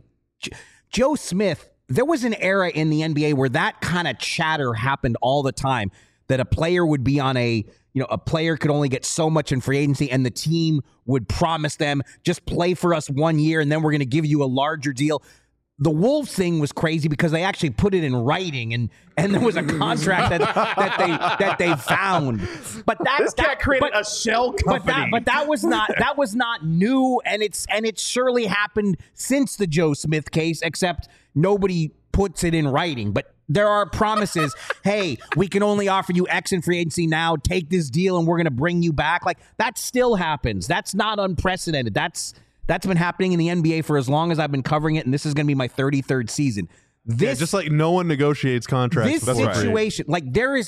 S3: Joe Smith? There was an era in the NBA where that kind of chatter happened all the time, that a player would be on a player could only get so much in free agency and the team would promise them, just play for us 1 year and then we're going to give you a larger deal. The Wolves thing was crazy because they actually put it in writing and there was a contract that they found. But that created
S1: a shell company.
S3: But that was not new, and it surely happened since the Joe Smith case, except nobody puts it in writing. But there are promises. Hey, we can only offer you X in free agency now. Take this deal, and we're going to bring you back. Like that still happens. That's not unprecedented. That's been happening in the NBA for as long as I've been covering it, and this is going to be my 33rd season.
S2: Just like no one negotiates contracts.
S3: This situation, like there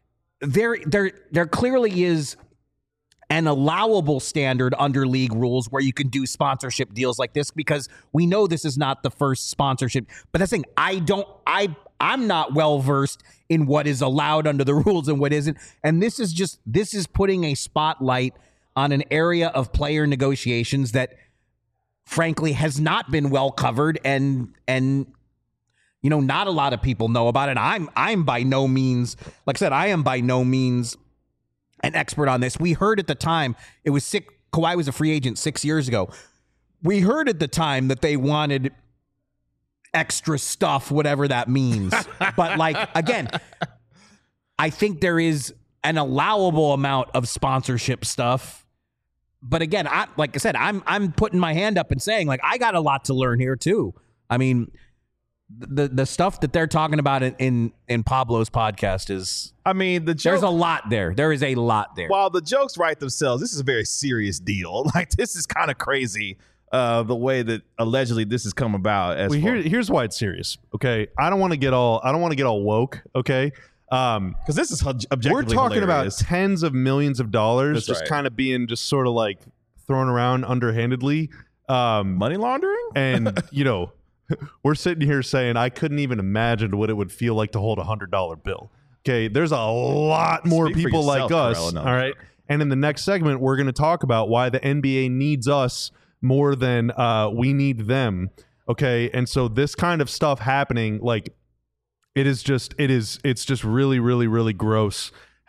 S3: clearly is an allowable standard under league rules where you can do sponsorship deals like this, because we know this is not the first sponsorship. But that's the thing. I'm not well versed in what is allowed under the rules and what isn't. And this is putting a spotlight on an area of player negotiations that frankly has not been well covered and not a lot of people know about it. I'm by no means, like I said, I am by no means an expert on this. We heard at the time Kawhi was a free agent 6 years ago. We heard at the time that they wanted extra stuff, whatever that means. But like, again, I think there is an allowable amount of sponsorship stuff. But again, like I said, I'm putting my hand up and saying, like, I got a lot to learn here too. I mean, the stuff that they're talking about in Pablo's podcast is, there's a lot there. There is a lot there.
S1: While the jokes write themselves, this is a very serious deal. Like, this is kind of crazy, the way that allegedly this has come about.
S2: Here's why it's serious. Okay, I don't want to get all woke. Okay.
S1: Because this is objectively
S2: we're talking
S1: hilarious.
S2: about tens of millions of dollars.
S1: That's
S2: just
S1: right.
S2: Kind of being just sort of like thrown around underhandedly.
S1: Money laundering?
S2: And, we're sitting here saying I couldn't even imagine what it would feel like to hold a $100 bill. Okay, there's a lot more
S1: Speak for
S2: people
S1: yourself,
S2: like us.
S1: Corella, no.
S2: All right. And in the next segment, we're going to talk about why the NBA needs us more than we need them. Okay. And so this kind of stuff happening, like, it's just really, really, really gross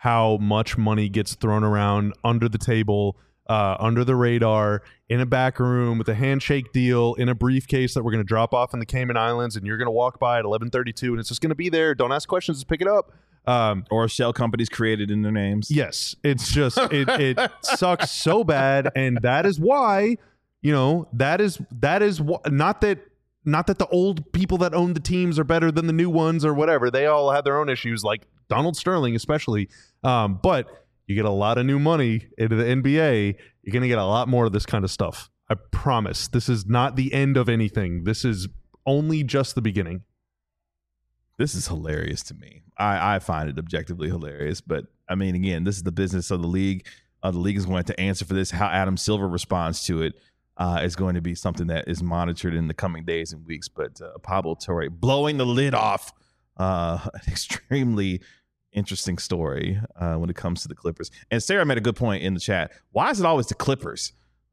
S2: how much money gets thrown around under the table, under the radar, in a back room with a handshake deal, in a briefcase that we're going to drop off in the Cayman Islands, and you're going to walk by at 11:32, and it's just going to be there. Don't ask questions, just pick it up.
S1: Or shell companies created in their names.
S2: Yes, it's just it sucks so bad, and that is why, that is not that the old people that own the teams are better than the new ones or whatever. They all have their own issues, like Donald Sterling especially. But you get a lot of new money into the NBA, you're going to get a lot more of this kind of stuff. I promise. This is not the end of anything. This is only just the beginning.
S1: This is hilarious to me. I find it objectively hilarious. But, I mean, again, this is the business of the league. The league is going to answer for this. How Adam Silver responds to it is going to be something that is monitored in the coming days and weeks. But Pablo Torre blowing the lid off an extremely interesting story when it comes to the Clippers. And Sarah made a good point in the chat. Why is it always the Clippers?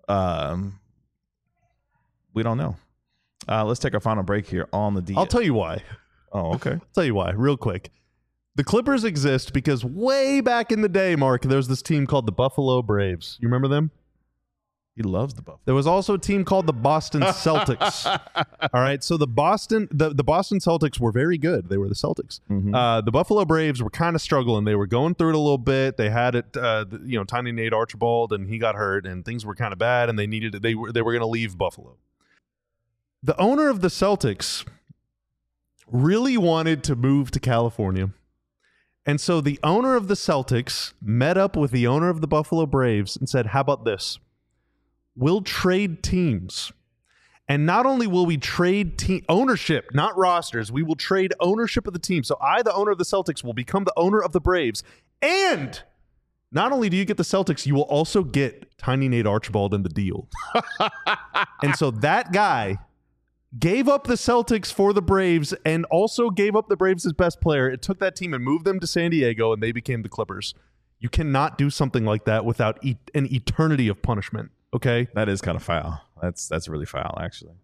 S1: We don't know. Let's take our final break here on the D.
S2: I'll tell you why.
S1: Oh, okay.
S2: I'll tell you why, real quick. The Clippers exist because way back in the day, Mark, there was this team called the Buffalo Braves. You remember them?
S1: He loves the Buffalo.
S2: There was also a team called the Boston Celtics. All right, so the Boston Celtics were very good. They were the Celtics.
S1: Mm-hmm.
S2: The Buffalo Braves were kind of struggling. They were going through it a little bit. They had it, Tiny Nate Archibald, and he got hurt, and things were kind of bad, and they were going to leave Buffalo. The owner of the Celtics really wanted to move to California. And so the owner of the Celtics met up with the owner of the Buffalo Braves and said, how about this? We'll trade teams. And not only will we trade team ownership, not rosters, we will trade ownership of the team. So I, the owner of the Celtics, will become the owner of the Braves. And not only do you get the Celtics, you will also get Tiny Nate Archibald in the deal. And so that guy gave up the Celtics for the Braves and also gave up the Braves' best player. It took that team and moved them to San Diego, and they became the Clippers. You cannot do something like that without an eternity of punishment, okay?
S1: That is kind of foul. That's really foul, actually.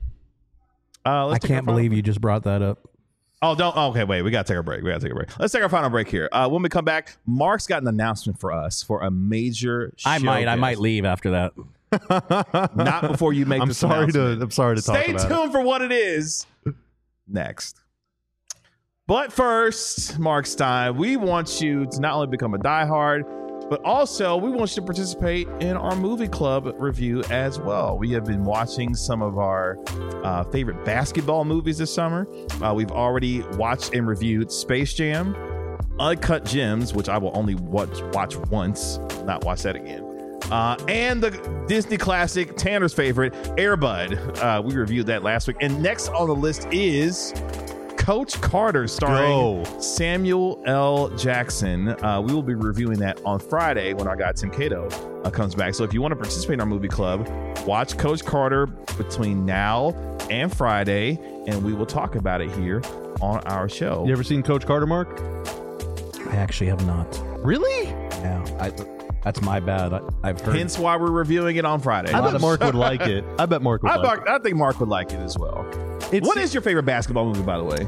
S3: I can't believe you just brought that up.
S1: Oh, don't. Okay, wait. We got to take a break. Let's take our final break here. When we come back, Mark's got an announcement for us for a major show.
S3: I might leave after that.
S1: Not before you make this announcement.
S2: I'm sorry to talk about it.
S1: Stay tuned for what it is next. But first, Mark Stein, we want you to not only become a diehard, but also we want you to participate in our movie club review as well. We have been watching some of our favorite basketball movies this summer. We've already watched and reviewed Space Jam, Uncut Gems, which I will only watch once, not watch that again. And the Disney classic, Tanner's favorite, Air Bud. We reviewed that last week. And next on the list is Coach Carter, starring Samuel L. Jackson. We will be reviewing that on Friday when our guy Tim Cato comes back. So if you want to participate in our movie club, watch Coach Carter between now and Friday, and we will talk about it here on our show.
S2: You ever seen Coach Carter, Mark?
S3: I actually have not.
S2: Really?
S3: Yeah. That's my bad. I've heard.
S1: Hence why we're reviewing it on Friday.
S2: I bet Mark would like it. I think
S1: Mark would like it as well. What is your favorite basketball movie, by the way?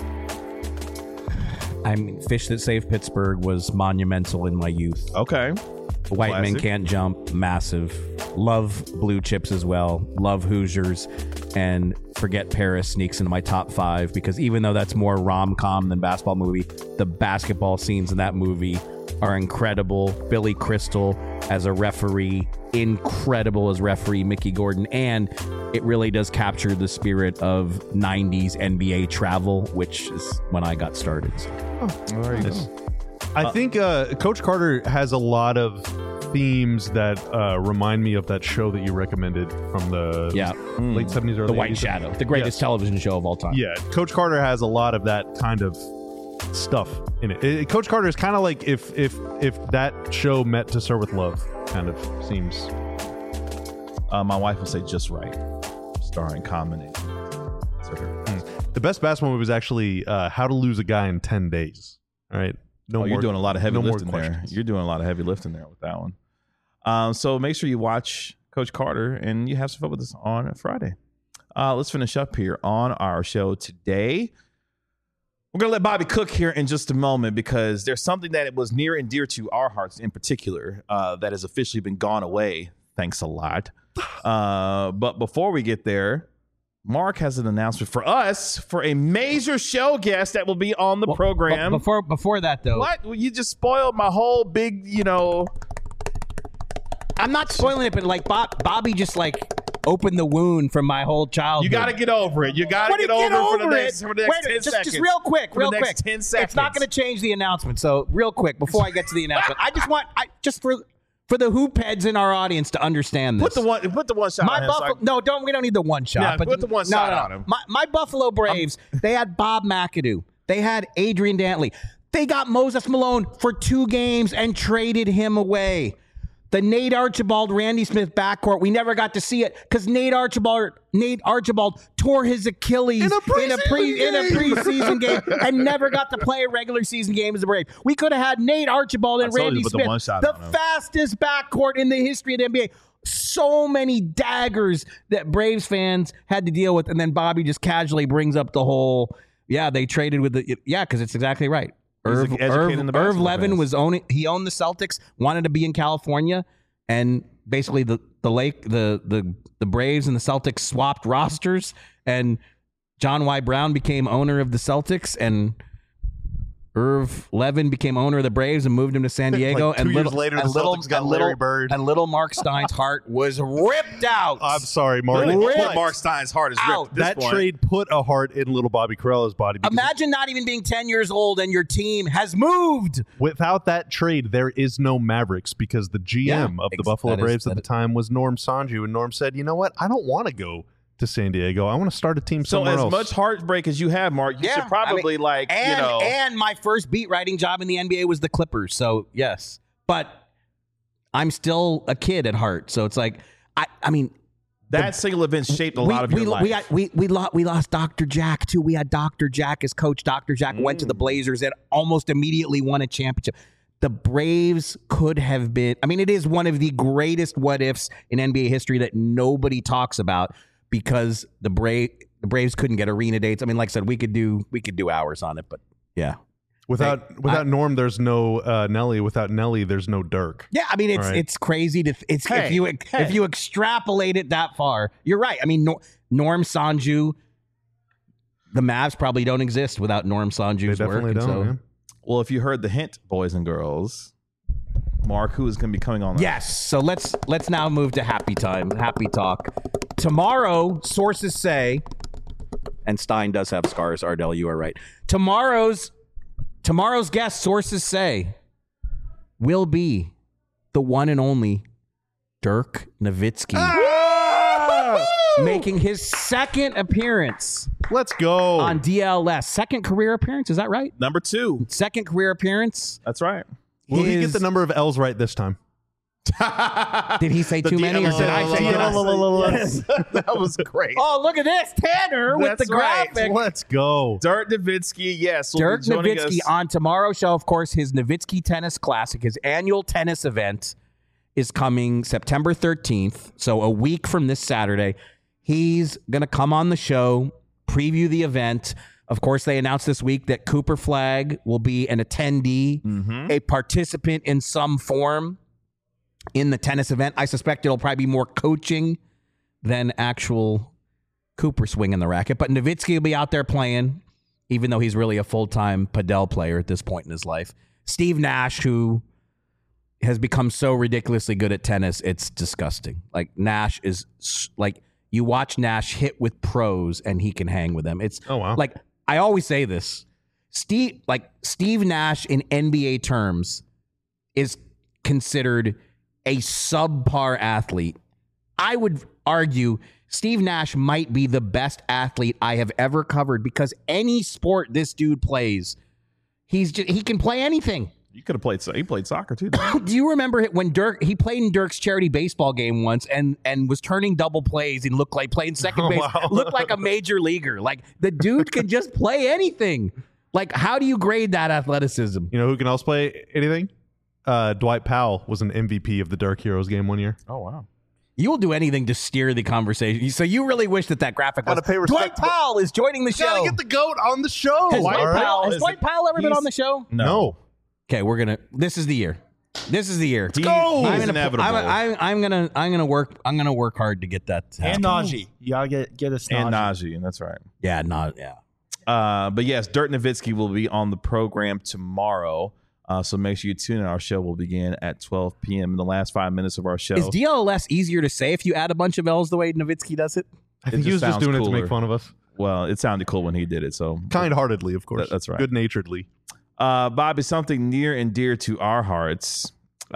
S3: Fish That Saved Pittsburgh was monumental in my youth.
S1: Okay.
S3: White Men Can't Jump, massive. Love Blue Chips as well. Love Hoosiers. And Forget Paris sneaks into my top 5 because even though that's more rom-com than basketball movie, the basketball scenes in that movie are incredible. Billy Crystal as a referee, incredible as referee Mickey Gordon, and it really does capture the spirit of 90s NBA travel, which is when I got started.
S1: There you go.
S2: I think Coach Carter has a lot of themes that remind me of that show that you recommended from the late 70s or
S3: The White Shadow, the greatest television show of all time.
S2: Yeah, Coach Carter has a lot of that kind of stuff in it. Coach Carter is kind of like if that show met To Serve with Love, kind of seems.
S1: My wife will say Just Right, starring Common.
S2: The best basketball movie was actually How to Lose a Guy in 10 Days. All right.
S1: You're doing a lot of heavy lifting there. You're doing a lot of heavy lifting there with that one. So make sure you watch Coach Carter and you have some fun with us on Friday. Let's finish up here on our show today. We're going to let Bobby cook here in just a moment because there's something that was near and dear to our hearts in particular that has officially been gone away. Thanks a lot. But before we get there, Mark has an announcement for us for a major show guest that will be on the program.
S3: Before that, though.
S1: What? Well, you just spoiled my whole big,
S3: I'm not spoiling it, but like Bobby just like opened the wound from my whole childhood.
S1: You got to get over it. You got to get over it for the next 10 seconds.
S3: Just real quick.
S1: 10 seconds.
S3: It's not going to change the announcement. So real quick, before I get to the announcement, I just want for the hoop heads in our audience to understand this.
S1: Put the one shot on him.
S3: We don't need the one shot.
S1: Yeah,
S3: but
S1: put the one shot on him.
S3: My Buffalo Braves, they had Bob McAdoo. They had Adrian Dantley. They got Moses Malone for 2 games and traded him away. The Nate Archibald, Randy Smith backcourt, we never got to see it because Nate Archibald tore his Achilles in a preseason game and never got to play a regular season game as a Brave. We could have had Nate Archibald and Randy Smith, the fastest backcourt in the history of the NBA. So many daggers that Braves fans had to deal with, and then Bobby just casually brings up the whole, they traded with because it's exactly right. Irv Levin was owned the Celtics, wanted to be in California, and basically the Braves and the Celtics swapped rosters, and John Y. Brown became owner of the Celtics, and Irv Levin became owner of the Braves and moved him to San Diego.
S2: Like 2 years later, the Celtics got Larry Bird.
S3: And little Mark Stein's heart was ripped out.
S2: I'm sorry, Mark.
S1: Mark Stein's heart is ripped.
S2: That trade put a heart in little Bobby Carello's body.
S3: Imagine not even being 10 years old and your team has moved.
S2: Without that trade, there is no Mavericks because the GM of the Buffalo Braves at the time was Norm Sanju. And Norm said, you know what? I don't want to go to San Diego. I want to start a team somewhere else.
S1: So as much heartbreak as you have, Mark, you should probably
S3: And my first beat writing job in the NBA was the Clippers. So yes, but I'm still a kid at heart. So it's like, I mean,
S1: that single event shaped a lot of your life.
S3: We lost Dr. Jack too. We had Dr. Jack as coach. Dr. Jack went to the Blazers and almost immediately won a championship. The Braves could have been, it is one of the greatest what ifs in NBA history that nobody talks about. Because the Braves couldn't get arena dates. Like I said, we could do hours on it, but yeah.
S2: Without Norm, there's no Nelly. Without Nelly, there's no Dirk.
S3: Yeah, it's crazy to if you extrapolate it that far, you're right. Norm Sanju, the Mavs probably don't exist without Norm Sanju's work.
S2: They definitely don't. Man.
S1: Well, if you heard the hint, boys and girls, Mark, who is going to be coming on?
S3: Yes. So let's now move to happy talk. Tomorrow, sources say, and Stein does have scars, Ardell, you are right. Tomorrow's guest, sources say, will be the one and only Dirk Nowitzki. Making his second appearance.
S2: Let's go.
S3: On DLS. Second career appearance, is that right?
S1: Number 2.
S3: Second career appearance.
S1: That's right.
S2: Will he get the number of L's right this time?
S3: Did he say too many or did I say yes?
S1: That was great.
S3: Oh, look at this. Tanner with the graphic.
S2: Let's go.
S1: Dirk Nowitzki, yes.
S3: Dirk Nowitzki on tomorrow's show, of course, his Nowitzki Tennis Classic, his annual tennis event is coming September 13th. So a week from this Saturday. He's going to come on the show, preview the event. Of course, they announced this week that Cooper Flagg will be an attendee, a participant in some form in the tennis event. I suspect it'll probably be more coaching than actual Cooper swinging the racket. But Nowitzki will be out there playing, even though he's really a full-time Padel player at this point in his life. Steve Nash, who has become so ridiculously good at tennis, it's disgusting. Like, Nash is like, you watch Nash hit with pros and he can hang with them. It's like, I always say this, Steve Nash in NBA terms is considered a subpar athlete. I would argue Steve Nash might be the best athlete I have ever covered because any sport this dude plays, he can play anything.
S1: You could have played. He played soccer too.
S3: Do you remember when he played in Dirk's charity baseball game once and was turning double plays and looked like playing second base, looked like a major leaguer. Like the dude can just play anything. Like, how do you grade that athleticism?
S2: You know who can also play anything? Dwight Powell was an MVP of the Dirk Heroes game one year.
S1: Oh wow.
S3: You will do anything to steer the conversation. So you really wish that graphic was.
S2: Gotta pay respect.
S3: Dwight Powell is joining the show.
S2: Gotta get the GOAT on the show.
S3: Has
S2: All
S3: Dwight Powell ever been on the show?
S2: No.
S3: Okay, this is the year. This is the year.
S1: Let's go.
S3: I'm
S1: inevitable.
S3: I'm gonna work hard to get that. To
S4: And
S3: happen.
S4: Najee. You gotta get us
S1: and
S4: Najee.
S1: Najee, that's right.
S3: Yeah,
S1: But yes, Dirk Nowitzki will be on the program tomorrow. So make sure you tune in. Our show will begin at 12 p.m. in the last 5 minutes of our show.
S3: Is DLS easier to say if you add a bunch of L's the way Nowitzki does it?
S2: I think he was just doing it to make fun of us.
S1: Well, it sounded cool when he did it. So
S2: Kind-heartedly, of course.
S1: That's right.
S2: Good-naturedly.
S1: Bobby, something near and dear to our hearts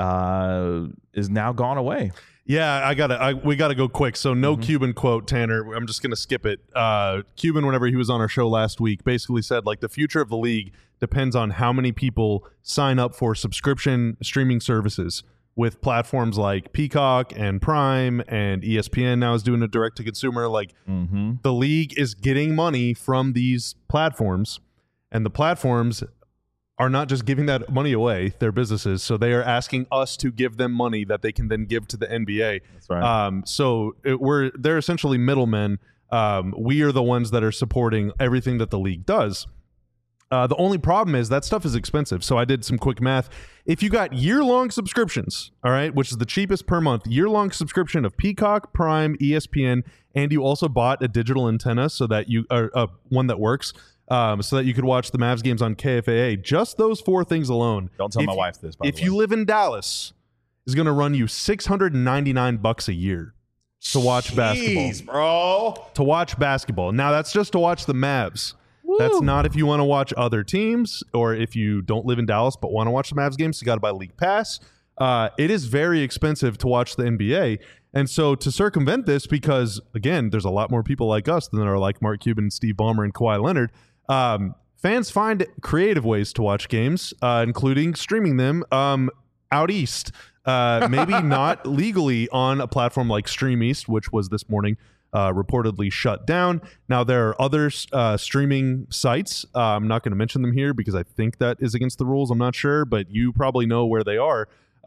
S1: is now gone away.
S2: Yeah, we gotta go quick. So no Cuban quote, Tanner. I'm just gonna skip it. Cuban, whenever he was on our show last week, basically said like the future of the league depends on how many people sign up for subscription streaming services with platforms like Peacock and Prime, and ESPN now is doing a direct to consumer. Like the league is getting money from these platforms, and the platforms are not just giving that money away, they're businesses, so they are asking us to give them money that they can then give to the NBA.
S1: That's right.
S2: So they're essentially middlemen. We are the ones that are supporting everything that the league does. The only problem is that stuff is expensive. So I did some quick math. If you got year-long subscriptions, all right, which is the cheapest per month, year-long subscription of Peacock, Prime, ESPN, and you also bought a digital antenna so that you one that works, so that you could watch the Mavs games on KFAA. Just those 4 things alone.
S1: Don't tell my wife this, by the way.
S2: If you live in Dallas, is going to run you $699 a year to watch basketball.
S1: Jeez, bro.
S2: To watch basketball. Now, that's just to watch the Mavs. Woo. That's not if you want to watch other teams, or if you don't live in Dallas but want to watch the Mavs games, you got to buy League Pass. It is very expensive to watch the NBA. And so to circumvent this, because, again, there's a lot more people like us than there are like Mark Cuban, Steve Ballmer, and Kawhi Leonard, fans find creative ways to watch games, including streaming them out east. Maybe not legally on a platform like Stream East, which was this morning reportedly shut down. Now, there are other streaming sites. I'm not going to mention them here because I think that is against the rules. I'm not sure, but you probably know where they are.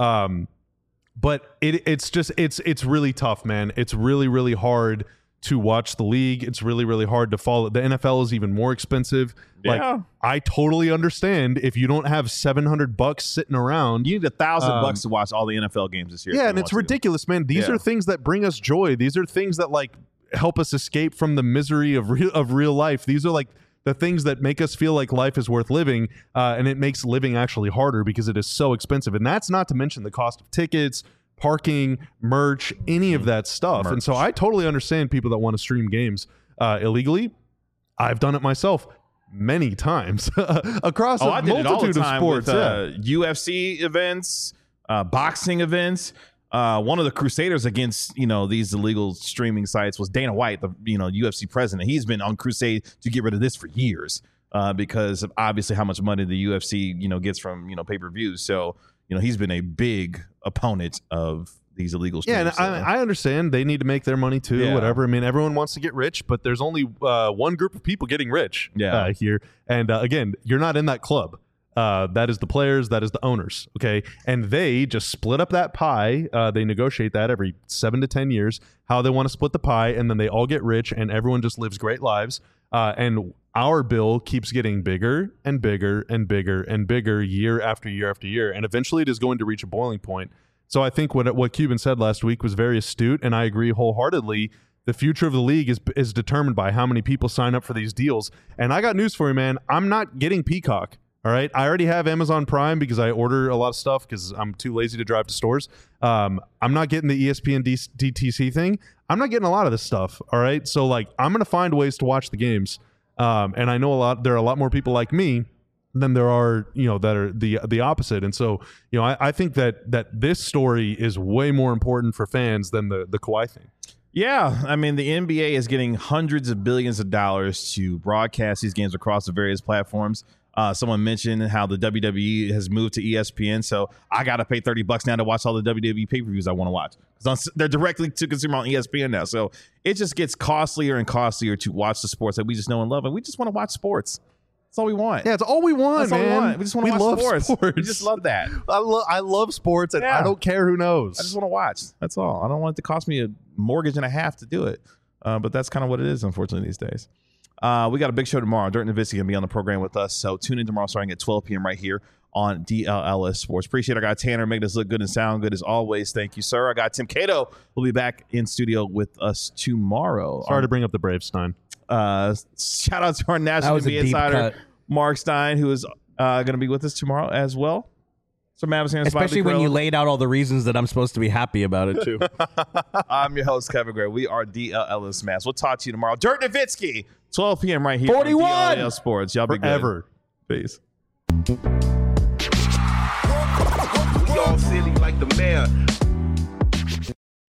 S2: But it's really tough, man. It's really, really hard to watch the league. It's really, really hard to follow. The NFL is even more expensive.
S1: Yeah.
S2: Like, I totally understand if you don't have $700 sitting around.
S1: You need $1,000 to watch all the NFL games this year.
S2: Yeah, and it's ridiculous, man. These are things that bring us joy. These are things that like help us escape from the misery of real life. These are like the things that make us feel like life is worth living, and it makes living actually harder because it is so expensive. And that's not to mention the cost of tickets, parking, merch, any of that stuff. And so I totally understand people that want to stream games illegally. I've done it myself many times across a multitude of sports.
S1: UFC events, boxing events. One of the crusaders against these illegal streaming sites was Dana White, the UFC president. He's been on crusade to get rid of this for years because of obviously how much money the UFC gets from pay-per-views. So he's been a big opponent of these illegal streaming.
S2: Yeah, and I understand they need to make their money too.
S1: Yeah.
S2: Whatever. I mean, everyone wants to get rich, but there's only one group of people getting rich here. And again, you're not in that club. That is the players, that is the owners, okay? And they just split up that pie. They negotiate that every 7 to 10 years, how they want to split the pie, and then they all get rich, and everyone just lives great lives. And our bill keeps getting bigger and bigger and bigger and bigger year after year after year, and eventually it is going to reach a boiling point. So I think what Cuban said last week was very astute, and I agree wholeheartedly. The future of the league is determined by how many people sign up for these deals. And I got news for you, man. I'm not getting Peacock. All right. I already have Amazon Prime because I order a lot of stuff because I'm too lazy to drive to stores. I'm not getting the ESPN DTC thing. I'm not getting a lot of this stuff. All right. So like, I'm going to find ways to watch the games. And I know there are a lot more people like me than there are, that are the opposite. And so, I think that this story is way more important for fans than the Kawhi thing.
S1: Yeah, I mean, the NBA is getting hundreds of billions of dollars to broadcast these games across the various platforms. Someone mentioned how the WWE has moved to ESPN, so I got to pay $30 now to watch all the WWE pay-per-views I want to watch. They're directly to consumer on ESPN now, so it just gets costlier and costlier to watch the sports that we just know and love, and we just want to watch sports. That's all we want.
S2: Yeah, it's all we want,
S1: That's all
S2: man.
S1: we want. We just want to watch sports. We just love that.
S2: I love sports, and I don't care who knows.
S1: I just want to watch. That's all. I don't want it to cost me a mortgage and a half to do it. But that's kind of what it is, unfortunately, these days. We got a big show tomorrow. Dirk Nowitzki going to be on the program with us. So tune in tomorrow starting at 12 p.m. right here on DLLS Sports. Appreciate our guy Tanner making us look good and sound good as always. Thank you, sir. I got Tim Cato will be back in studio with us tomorrow.
S2: Sorry to bring up the Braves, Stein.
S1: Shout out to our National NBA insider, Mark Stein, who is going to be with us tomorrow as well. So
S3: especially when you laid out all the reasons that I'm supposed to be happy about it too.
S1: I'm your host, Kevin Gray. We are DLLS Mass. We'll talk to you tomorrow. Dirk Nowitzki, 12 p.m. right here
S3: 41
S1: on DLLS Sports. Y'all be
S2: forever.
S1: Good. Peace.
S7: We all silly like the mayor.